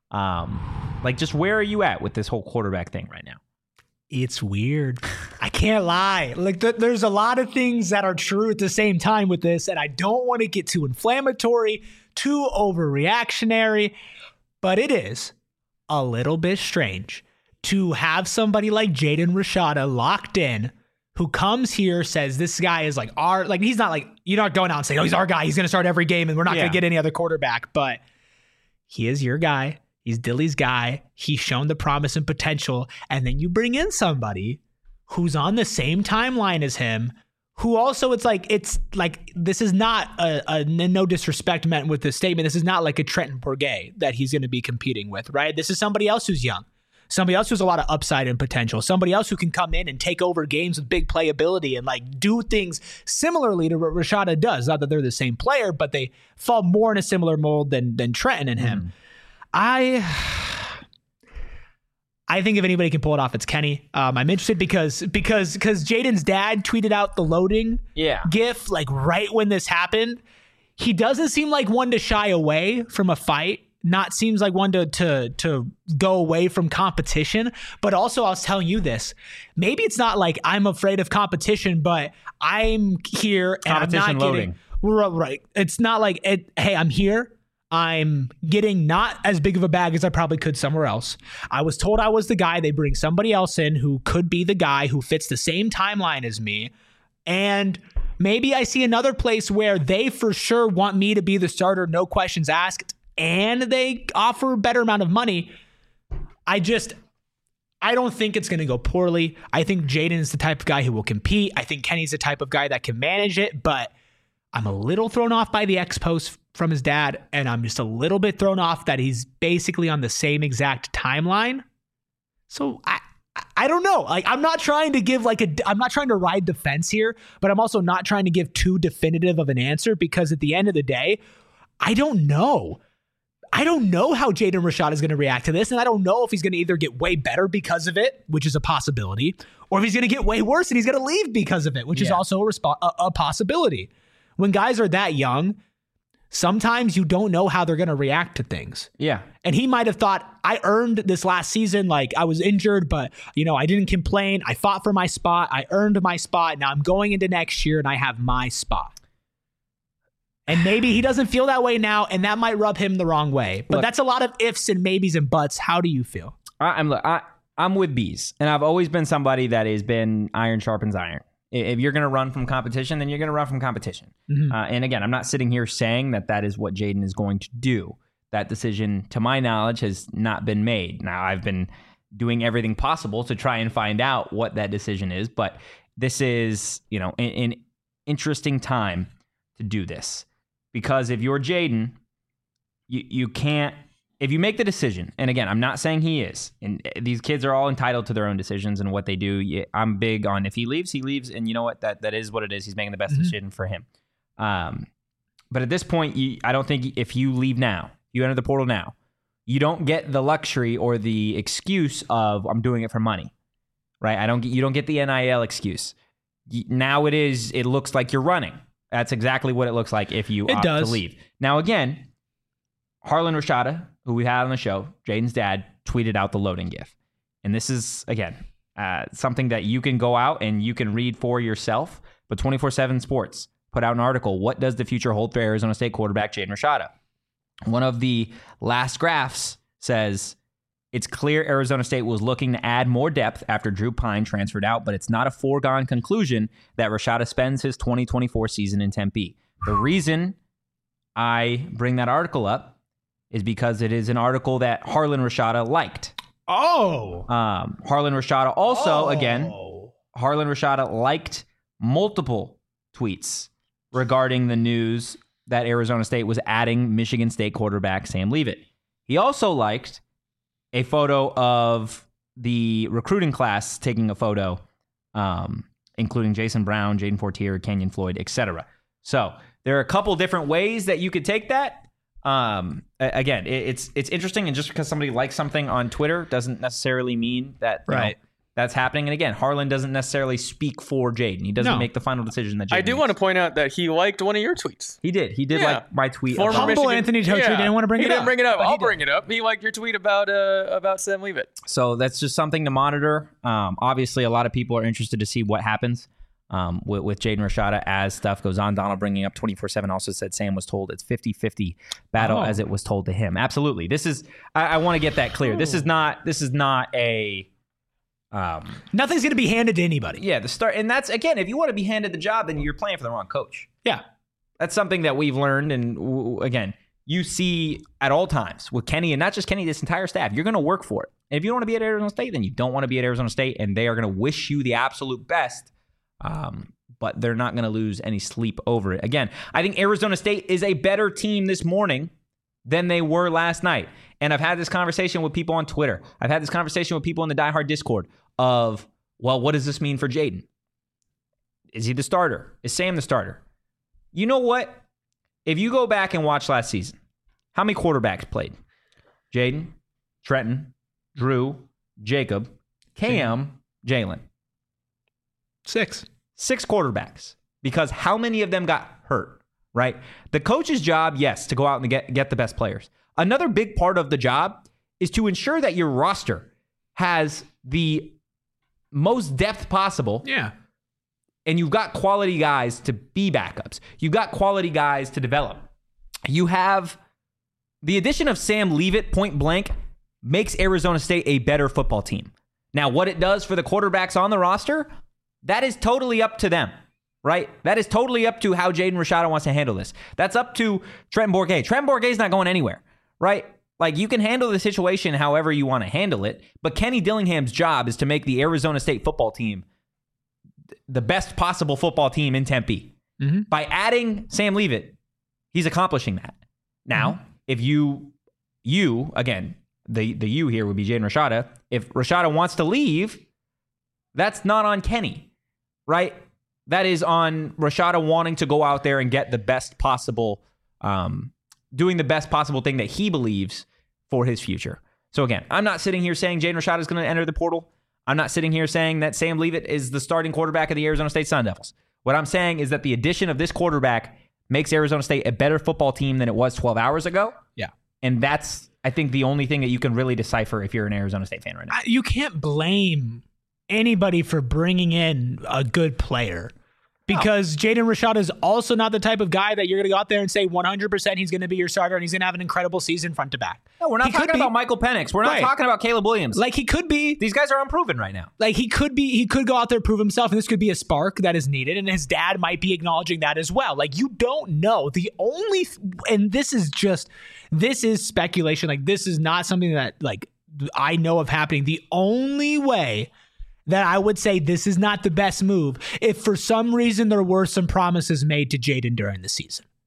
Um, like, just where are you at with this whole quarterback thing right now? It's weird. I can't lie. Like th- there's a lot of things that are true at the same time with this, and I don't want to get too inflammatory, too overreactionary, but it is a little bit strange to have somebody like Jaden Rashada locked in, who comes here, says this guy is like our, like he's not like, you're not going out and saying, oh, he's our guy, he's going to start every game and we're not Yeah. going to get any other quarterback, but he is your guy. He's Dilly's guy. He's shown the promise and potential. And then you bring in somebody who's on the same timeline as him, who also, it's like, it's like, this is not a, a no disrespect meant with this statement. This is not like a Trenton Bourguet that he's going to be competing with, right? This is somebody else who's young. Somebody else who's a lot of upside and potential. Somebody else who can come in and take over games with big playability and like do things similarly to what Rashada does. Not that they're the same player, but they fall more in a similar mold than than Trenton and him. I I think if anybody can pull it off, it's Kenny. Um, I'm interested because because because Jaden's dad tweeted out the loading Yeah. gif like right when this happened. He doesn't seem like one to shy away from a fight. Not seems like one to to to go away from competition. But also, I was telling you this. Maybe it's not like I'm afraid of competition, but I'm here and Competition I'm not loading. getting right. right. It's not like it, hey, I'm here. I'm getting not as big of a bag as I probably could somewhere else. I was told I was the guy. They bring somebody else in who could be the guy who fits the same timeline as me. And maybe I see another place where they for sure want me to be the starter, no questions asked, and they offer a better amount of money. I just, I don't think it's going to go poorly. I think Jaden's the type of guy who will compete. I think Kenny's the type of guy that can manage it, but I'm a little thrown off by the expos from his dad, and I'm just a little bit thrown off that he's basically on the same exact timeline. So I I don't know. Like, I'm not trying to give like a I'm not trying to ride the fence here, but I'm also not trying to give too definitive of an answer, because at the end of the day, I don't know. I don't know how Jaden Rashada is going to react to this, and I don't know if he's going to either get way better because of it, which is a possibility, or if he's going to get way worse and he's going to leave because of it, which is Yeah. also a, respo- a, a possibility. When guys are that young, sometimes you don't know how they're going to react to things. Yeah. And he might have thought, I earned this last season. Like, I was injured, but, you know, I didn't complain. I fought for my spot. I earned my spot. Now I'm going into next year and I have my spot. And maybe he doesn't feel that way now, and that might rub him the wrong way. But Look, that's a lot of ifs and maybes and buts. How do you feel? I, I'm I, I'm with bees, and I've always been somebody that has been iron sharpens iron. I- If you're going to run from competition, then you're going to run from competition. Mhm. Uh, and again, I'm not sitting here saying that that is what Jaden is going to do. That decision, to my knowledge, has not been made. Now, I've been doing everything possible to try and find out what that decision is, but this is, you know, an, an interesting time to do this. Because if you're Jaden, you, you can't if you make the decision, and again, I'm not saying he is, and these kids are all entitled to their own decisions and what they do. I'm big on if he leaves, he leaves, and you know what? That that is what it is. He's making the best mm-hmm. decision for him. Um, but at this point, you, I don't think if you leave now, you enter the portal now, you don't get the luxury or the excuse of I'm doing it for money, right? I don't get you don't get the N I L excuse. Now it is. It looks like you're running. That's exactly what it looks like if you it opt does. to leave. Now again, Harlan Rashada, who we had on the show, Jaden's dad, tweeted out the loading gif. And this is, again, uh, something that you can go out and you can read for yourself. But twenty-four seven Sports put out an article, What Does the Future Hold for Arizona State quarterback Jaden Rashada? One of the last graphs says, it's clear Arizona State was looking to add more depth after Drew Pine transferred out, but it's not a foregone conclusion that Rashada spends his twenty twenty-four season in Tempe. The reason I bring that article up is because it is an article that Harlan Rashada liked. Oh. Um, Harlan Rashada also, oh. again, Harlan Rashada liked multiple tweets regarding the news that Arizona State was adding Michigan State quarterback Sam Leavitt. He also liked a photo of the recruiting class taking a photo, um, including Jason Brown, Jaden Fortier, Kenyon Floyd, et cetera. So there are a couple different ways that you could take that. Um, again, it, it's it's interesting, and just because somebody likes something on Twitter doesn't necessarily mean that you right. know, that's happening. And again, Harlan doesn't necessarily speak for Jaden. He doesn't no. make the final decision that Jaden I do makes. want to point out that he liked one of your tweets. He did. He did Yeah. like my tweet. Former about- Humble Michigan- Anthony Totri yeah. didn't want to bring he it didn't up. bring it up. but he I'll did. bring it up. He liked your tweet about uh, about Sam Leavitt. So that's just something to monitor. Um, obviously, a lot of people are interested to see what happens um, with, with Jaden Rashada as stuff goes on. Donald bringing up twenty-four seven also said Sam was told it's fifty-fifty battle Oh. as it was told to him. Absolutely. This is, I, I want to get that clear. This is not, this is not a, um, Nothing's going to be handed to anybody. yeah, the start. And that's, again, if you want to be handed the job, then you're playing for the wrong coach. Yeah. That's something that we've learned. And w- again, you see at all times with Kenny, and not just Kenny, this entire staff, you're going to work for it. And if you don't want to be at Arizona State, then you don't want to be at Arizona State, and they are going to wish you the absolute best. Um, but they're not going to lose any sleep over it. Again, I think Arizona State is a better team this morning than they were last night. And I've had this conversation with people on Twitter. I've had this conversation with people in the Die Hard Discord of, well, what does this mean for Jaden? Is he the starter? Is Sam the starter? You know what? If you go back and watch last season, how many quarterbacks played? Jaden, Trenton, Drew, Jacob, Cam, Jalen. Six. Six quarterbacks. Because how many of them got hurt, right? The coach's job, yes, to go out and get, get the best players. Another big part of the job is to ensure that your roster has the most depth possible. Yeah. And you've got quality guys to be backups. You've got quality guys to develop. You have the addition of Sam Leavitt, point blank, makes Arizona State a better football team. Now, what it does for the quarterbacks on the roster, that is totally up to them, right? That is totally up to how Jaden Rashada wants to handle this. That's up to Trenton Bourguet. Trenton Bourguet's not going anywhere, right? Like, you can handle the situation however you want to handle it, but Kenny Dillingham's job is to make the Arizona State football team the best possible football team in Tempe. Mm-hmm. By adding Sam Leavitt, he's accomplishing that. Now, mm-hmm. if you, you, again, the, the you here would be Jaden Rashada. If Rashada wants to leave, that's not on Kenny, right? That is on Rashada wanting to go out there and get the best possible, um, doing the best possible thing that he believes for his future. So again, I'm not sitting here saying Jaden Rashada is going to enter the portal. I'm not sitting here saying that Sam Leavitt is the starting quarterback of the Arizona State Sun Devils. What I'm saying is that the addition of this quarterback makes Arizona State a better football team than it was twelve hours ago. Yeah. And that's, I think, the only thing that you can really decipher if you're an Arizona State fan right now. You can't blame anybody for bringing in a good player, because no. Jaden Rashada is also not the type of guy that you're going to go out there and say one hundred percent he's going to be your starter and he's going to have an incredible season front to back. No, we're not he talking about Michael Penix. We're not right. talking about Caleb Williams. Like, he could be. These guys are unproven right now. Like, he could be, he could go out there, prove himself, and this could be a spark that is needed, and his dad might be acknowledging that as well. Like, you don't know. The only, th- and this is just, this is speculation. Like, this is not something that, like, I know of happening. The only way that I would say this is not the best move if for some reason there were some promises made to Jaden during the season.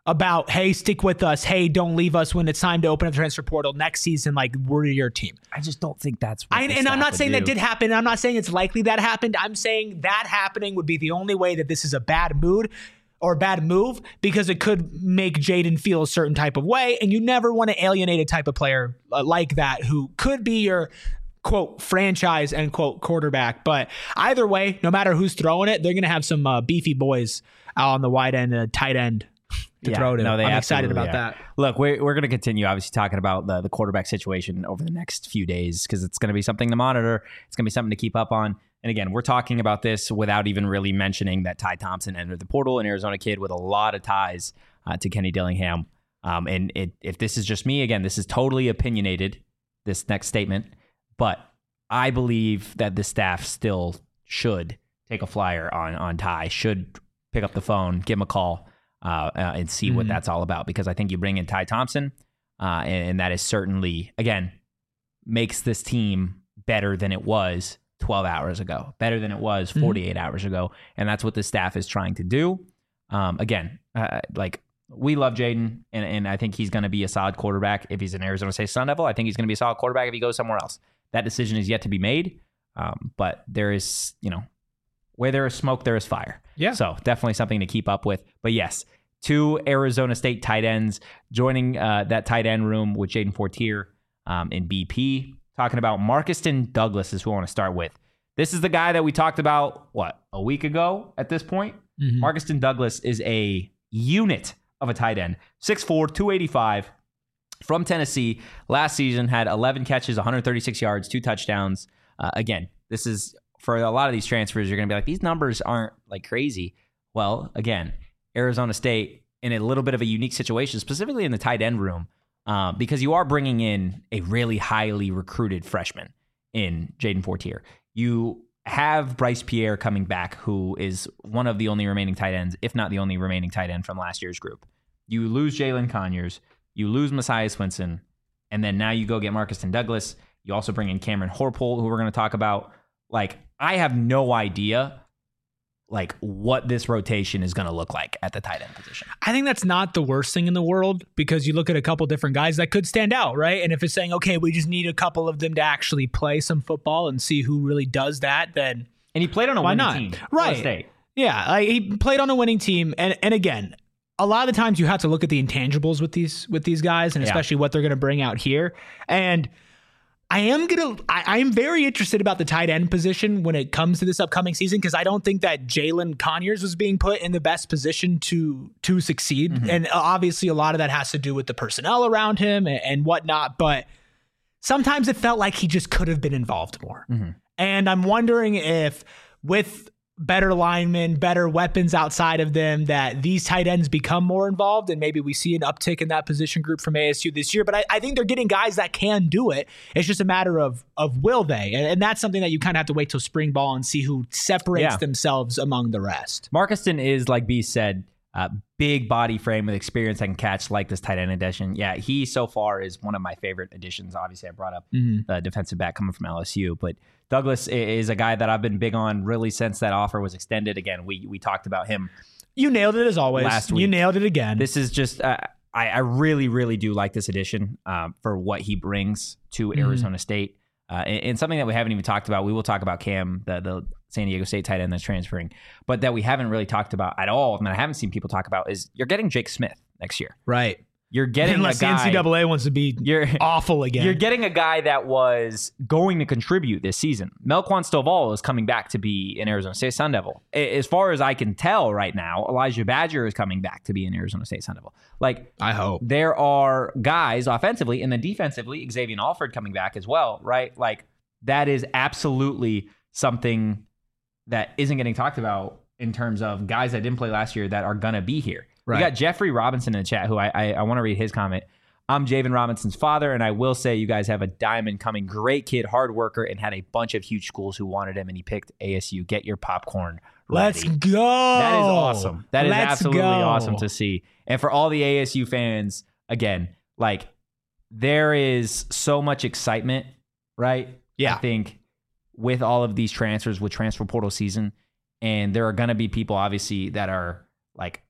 about, hey, stick with us. Hey, don't leave us when it's time to open up the transfer portal next season. Like, we're your team. I just don't think that's what I, and I'm not saying that did happen. I'm not saying it's likely that happened. I'm saying that happening would be the only way that this is a bad mood or bad move, because it could make Jaden feel a certain type of way. And you never want to alienate a type of player uh, like that who could be your quote franchise end quote quarterback. But either way, no matter who's throwing it, they're going to have some uh, beefy boys out on the wide end and uh, tight end to yeah, throw to. No, they I'm excited about are. that. Look, we're, we're going to continue obviously talking about the, the quarterback situation over the next few days, because it's going to be something to monitor. It's going to be something to keep up on. And again, we're talking about this without even really mentioning that Ty Thompson entered the portal, an Arizona kid with a lot of ties uh, to Kenny Dillingham. Um, and it, if this is just me, again, this is totally opinionated, this next statement, but I believe that the staff still should take a flyer on, on Ty, should pick up the phone, give him a call, uh, uh, and see mm-hmm. what that's all about. Because I think you bring in Ty Thompson, uh, and, and that is certainly, again, makes this team better than it was twelve hours ago, better than it was forty-eight mm-hmm. hours ago. And that's what the staff is trying to do. Um, again, uh, like we love Jaden, and, and I think he's going to be a solid quarterback. If he's an Arizona State Sun Devil, I think he's going to be a solid quarterback if he goes somewhere else. That decision is yet to be made. Um, but there is, you know, where there is smoke, there is fire. Yeah. So definitely something to keep up with. But yes, two Arizona State tight ends joining uh, that tight end room with Jaden Fortier um, in B P. Talking about Markeston Douglas is who I want to start with. This is the guy that we talked about, what, a week ago at this point? Mm-hmm. Markeston Douglas is a unit of a tight end. six four, two eighty-five, from Tennessee. Last season had eleven catches, one hundred thirty-six yards, two touchdowns. Uh, again, this is, for a lot of these transfers, you're going to be like, these numbers aren't like crazy. Well, again, Arizona State in a little bit of a unique situation, specifically in the tight end room, Uh, because you are bringing in a really highly recruited freshman in Jaden Fortier. You have Bryce Pierre coming back, who is one of the only remaining tight ends, if not the only remaining tight end from last year's group. You lose Jalen Conyers, you lose Messiah Swinson, and then now you go get Markeston Douglas. You also bring in Cameron Horpole, who we're going to talk about. Like, I have no idea like what this rotation is going to look like at the tight end position. I think that's not the worst thing in the world, because you look at a couple different guys that could stand out, right? And if it's saying, okay, we just need a couple of them to actually play some football and see who really does that, then and he played on a why winning not? team, right? State. Yeah, like he played on a winning team, and and again, a lot of the times you have to look at the intangibles with these with these guys, and especially yeah. what they're going to bring out here. And I am gonna. I, I am very interested about the tight end position when it comes to this upcoming season, because I don't think that Jalen Conyers was being put in the best position to to succeed, mm-hmm. and obviously a lot of that has to do with the personnel around him and, and whatnot. But sometimes it felt like he just could have been involved more, mm-hmm. and I'm wondering if with better linemen, better weapons outside of them, that these tight ends become more involved, and maybe we see an uptick in that position group from A S U this year. But I, I think they're getting guys that can do it. It's just a matter of of will they, and, and that's something that you kind of have to wait till spring ball and see who separates yeah. themselves among the rest. Markeston is, like B said, uh, big body frame with experience that can catch, like this tight end addition. Yeah, he so far is one of my favorite additions. Obviously, I brought up mm-hmm. the defensive back coming from L S U, but Douglas is a guy that I've been big on really since that offer was extended. Again, we we talked about him. You nailed it as always. Last week. You nailed it again. This is just, uh, I, I really, really do like this addition um, for what he brings to mm-hmm. Arizona State. Uh, and, and something that we haven't even talked about, we will talk about Cam, the, the San Diego State tight end that's transferring, but that we haven't really talked about at all, and I haven't seen people talk about, is you're getting Jake Smith next year. Right. You're getting Unless a guy, N C double A wants to be you're, awful again. You're getting a guy that was going to contribute this season. Melquan Stovall is coming back to be an Arizona State Sun Devil. As far as I can tell right now, Elijah Badger is coming back to be an Arizona State Sun Devil. Like, I hope. There are guys offensively, and then defensively, Xavier Alford coming back as well, right? Like, that is absolutely something that isn't getting talked about in terms of guys that didn't play last year that are going to be here. Right. We got Jeffrey Robinson in the chat, who I I, I want to read his comment. I'm Javen Robinson's father, and I will say you guys have a diamond coming. Great kid, hard worker, and had a bunch of huge schools who wanted him, and he picked A S U. Get your popcorn ready. Let's go. That is awesome. That is Let's absolutely go. awesome to see. And for all the A S U fans, again, like, there is so much excitement, right? Yeah. I think with all of these transfers, with transfer portal season, and there are going to be people, obviously, that are like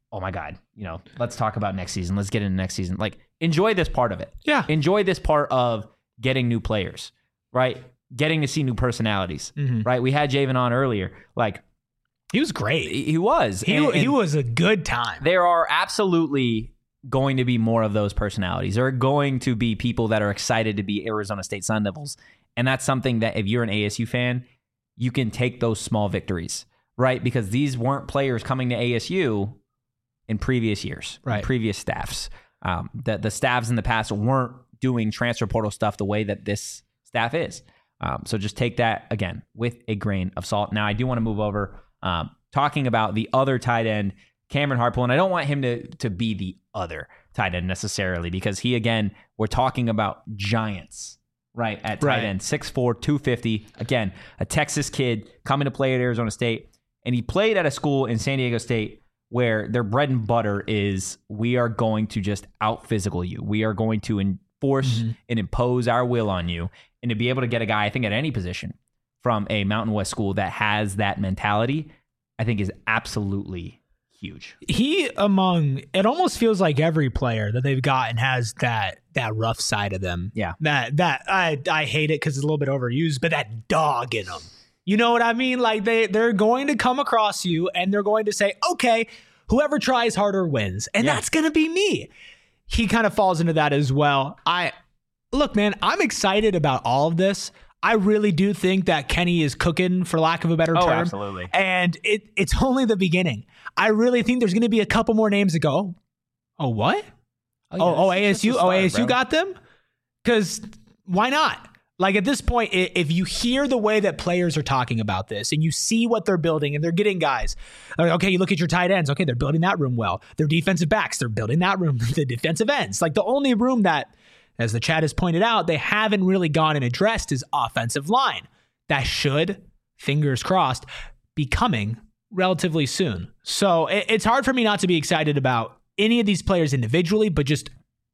oh my God, you know, let's talk about next season. Let's get into next season. Like, enjoy this part of it. Yeah. Enjoy this part of getting new players, right? Getting to see new personalities, Mm-hmm. right? We had Javen on earlier. Like, He was great. he he was. He, And- he and was a good time. there are absolutely going to be more of those personalities. There are going to be people that are excited to be Arizona State Sun Devils. And that's something that if you're an A S U fan, you can take those small victories, right? Because these weren't players coming to A S U in previous years, in Right. previous staffs. Um, the, the staffs in the past weren't doing transfer portal stuff the way that this staff is. Um, so just take that, again, with a grain of salt. Now, I do want to move over um, talking about the other tight end, Cameron Hartpool, and I don't want him to, to be the other tight end necessarily because he, again, we're talking about giants, right, at tight Right. end, six four, two fifty. Again, a Texas kid coming to play at Arizona State, and he played at a school in San Diego State where their bread and butter is we are going to just out-physical you. We are going to enforce Mm-hmm. and impose our will on you. And to be able to get a guy, I think, at any position from a Mountain West school that has that mentality, I think is absolutely huge. He among it almost feels like every player that they've gotten has that that rough side of them. Yeah. That that I I hate it because it's a little bit overused, but that dog in them. You know what I mean? Like they they're going to come across you and they're going to say, okay, whoever tries harder wins, and Yeah. that's gonna be me. He kind of falls into that as well. I look, man, I'm excited about all of this. I really do think that Kenny is cooking, for lack of a better Oh, term. absolutely. And it it's only the beginning. I really think there's going to be a couple more names that go, oh, what? Oh, oh, A S U? Oh, A S U got them? Because why not? Like at this point, i- if you hear the way that players are talking about this and you see what they're building and they're getting guys, like, okay, you look at your tight ends. Okay, they're building that room well. Their defensive backs, they're building that room, the defensive ends. Like the only room that, as the chat has pointed out, they haven't really gone and addressed is offensive line. That should, fingers crossed, be coming relatively soon. So it, it's hard for me not to be excited about any of these players individually, but just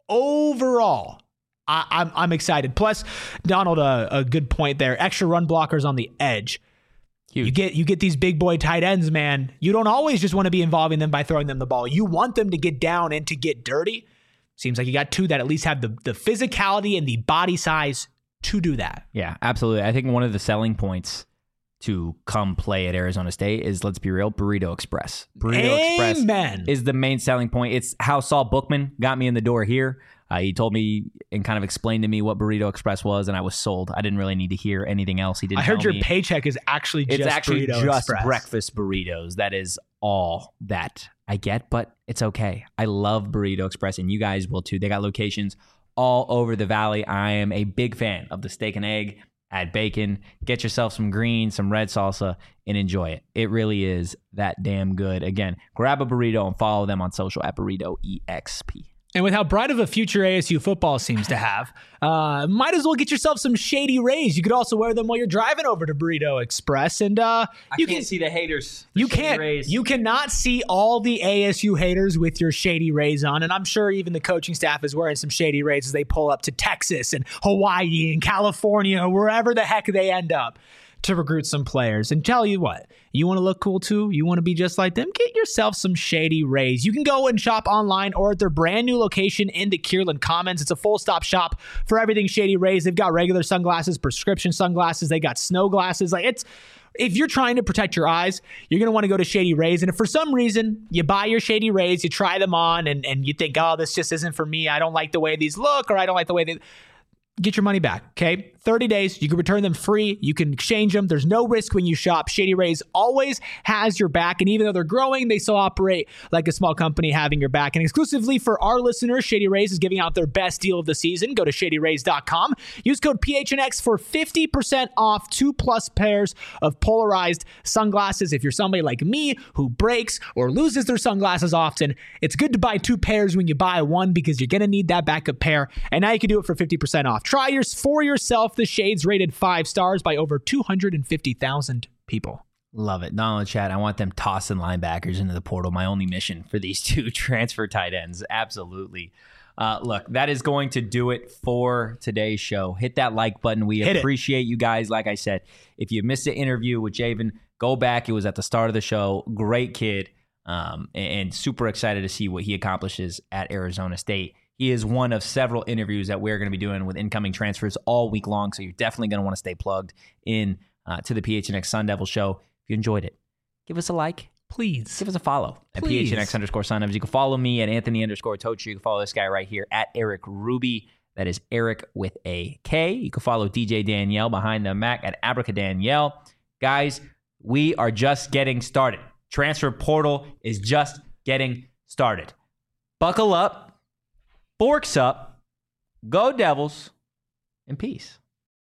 overall, I, I'm I'm excited. Plus, Donald, a, a good point there. Extra run blockers on the edge. Huge. You get you get these big boy tight ends, man. You don't always just want to be involving them by throwing them the ball. You want them to get down and to get dirty. Seems like you got two that at least have the, the physicality and the body size to do that. Yeah, absolutely. I think one of the selling points to come play at Arizona State is, let's be real, Burrito Express. Burrito Amen. Express is the main selling point. It's how Saul Bookman got me in the door here. Uh, he told me and kind of explained to me what Burrito Express was, and I was sold. I didn't really need to hear anything else. He didn't. I heard tell your me. paycheck is actually just It's actually Burrito just Express. breakfast burritos. That is all that I get, but it's okay. I love Burrito Express, and you guys will too. They got locations all over the valley. I am a big fan of the steak and egg. Add bacon, get yourself some green, some red salsa, and enjoy it. It really is that damn good. Again, grab a burrito and follow them on social at Burrito E X P. And with how bright of a future A S U football seems to have, uh, might as well get yourself some Shady Rays. You could also wear them while you're driving over to Burrito Express, and uh, you can see the haters. you can't you cannot see all the A S U haters with your Shady Rays on, and I'm sure even the coaching staff is wearing some Shady Rays as they pull up to Texas and Hawaii and California, wherever the heck they end up, to recruit some players. And tell you what, you want to look cool too? You want to be just like them? Get yourself some Shady Rays. You can go and shop online or at their brand new location in the Kierland Commons. It's a full stop shop for everything Shady Rays. They've got regular sunglasses, prescription sunglasses. They got snow glasses. Like it's, if you're trying to protect your eyes, you're going to want to go to Shady Rays. And if for some reason you buy your Shady Rays, you try them on and, and you think, oh, this just isn't for me. I don't like the way these look, or I don't like the way they... Get your money back, okay? thirty days. You can return them free. You can exchange them. There's no risk when you shop. Shady Rays always has your back. And even though they're growing, they still operate like a small company having your back. And exclusively for our listeners, Shady Rays is giving out their best deal of the season. Go to shady rays dot com. Use code P H N X for fifty percent off two plus pairs of polarized sunglasses. If you're somebody like me who breaks or loses their sunglasses often, it's good to buy two pairs when you buy one because you're going to need that backup pair. And now you can do it for fifty percent off. Try yours for yourself. The shades rated five stars by over two hundred fifty thousand people. Love it. Not on the chat. I want them tossing linebackers into the portal. My only mission for these two transfer tight ends. Absolutely. Uh, look, that is going to do it for today's show. Hit that like button. We Hit it. appreciate you guys. Like I said, if you missed the interview with Javen, go back. It was at the start of the show. Great kid. um, and, and super excited to see what he accomplishes at Arizona State. He is one of several interviews that we're going to be doing with incoming transfers all week long, so you're definitely going to want to stay plugged in uh, to the P H N X Sun Devil Show. If you enjoyed it, give us a like. Please. Give us a follow at Please. P H N X underscore Sun Devils. You can follow me at Anthony underscore Tochi. You can follow this guy right here at Eric Ruby. That is Eric with a K. You can follow D J Danielle behind the Mac at Abraca Danielle. Guys, we are just getting started. Transfer portal is just getting started. Buckle up, forks up, go Devils, and peace.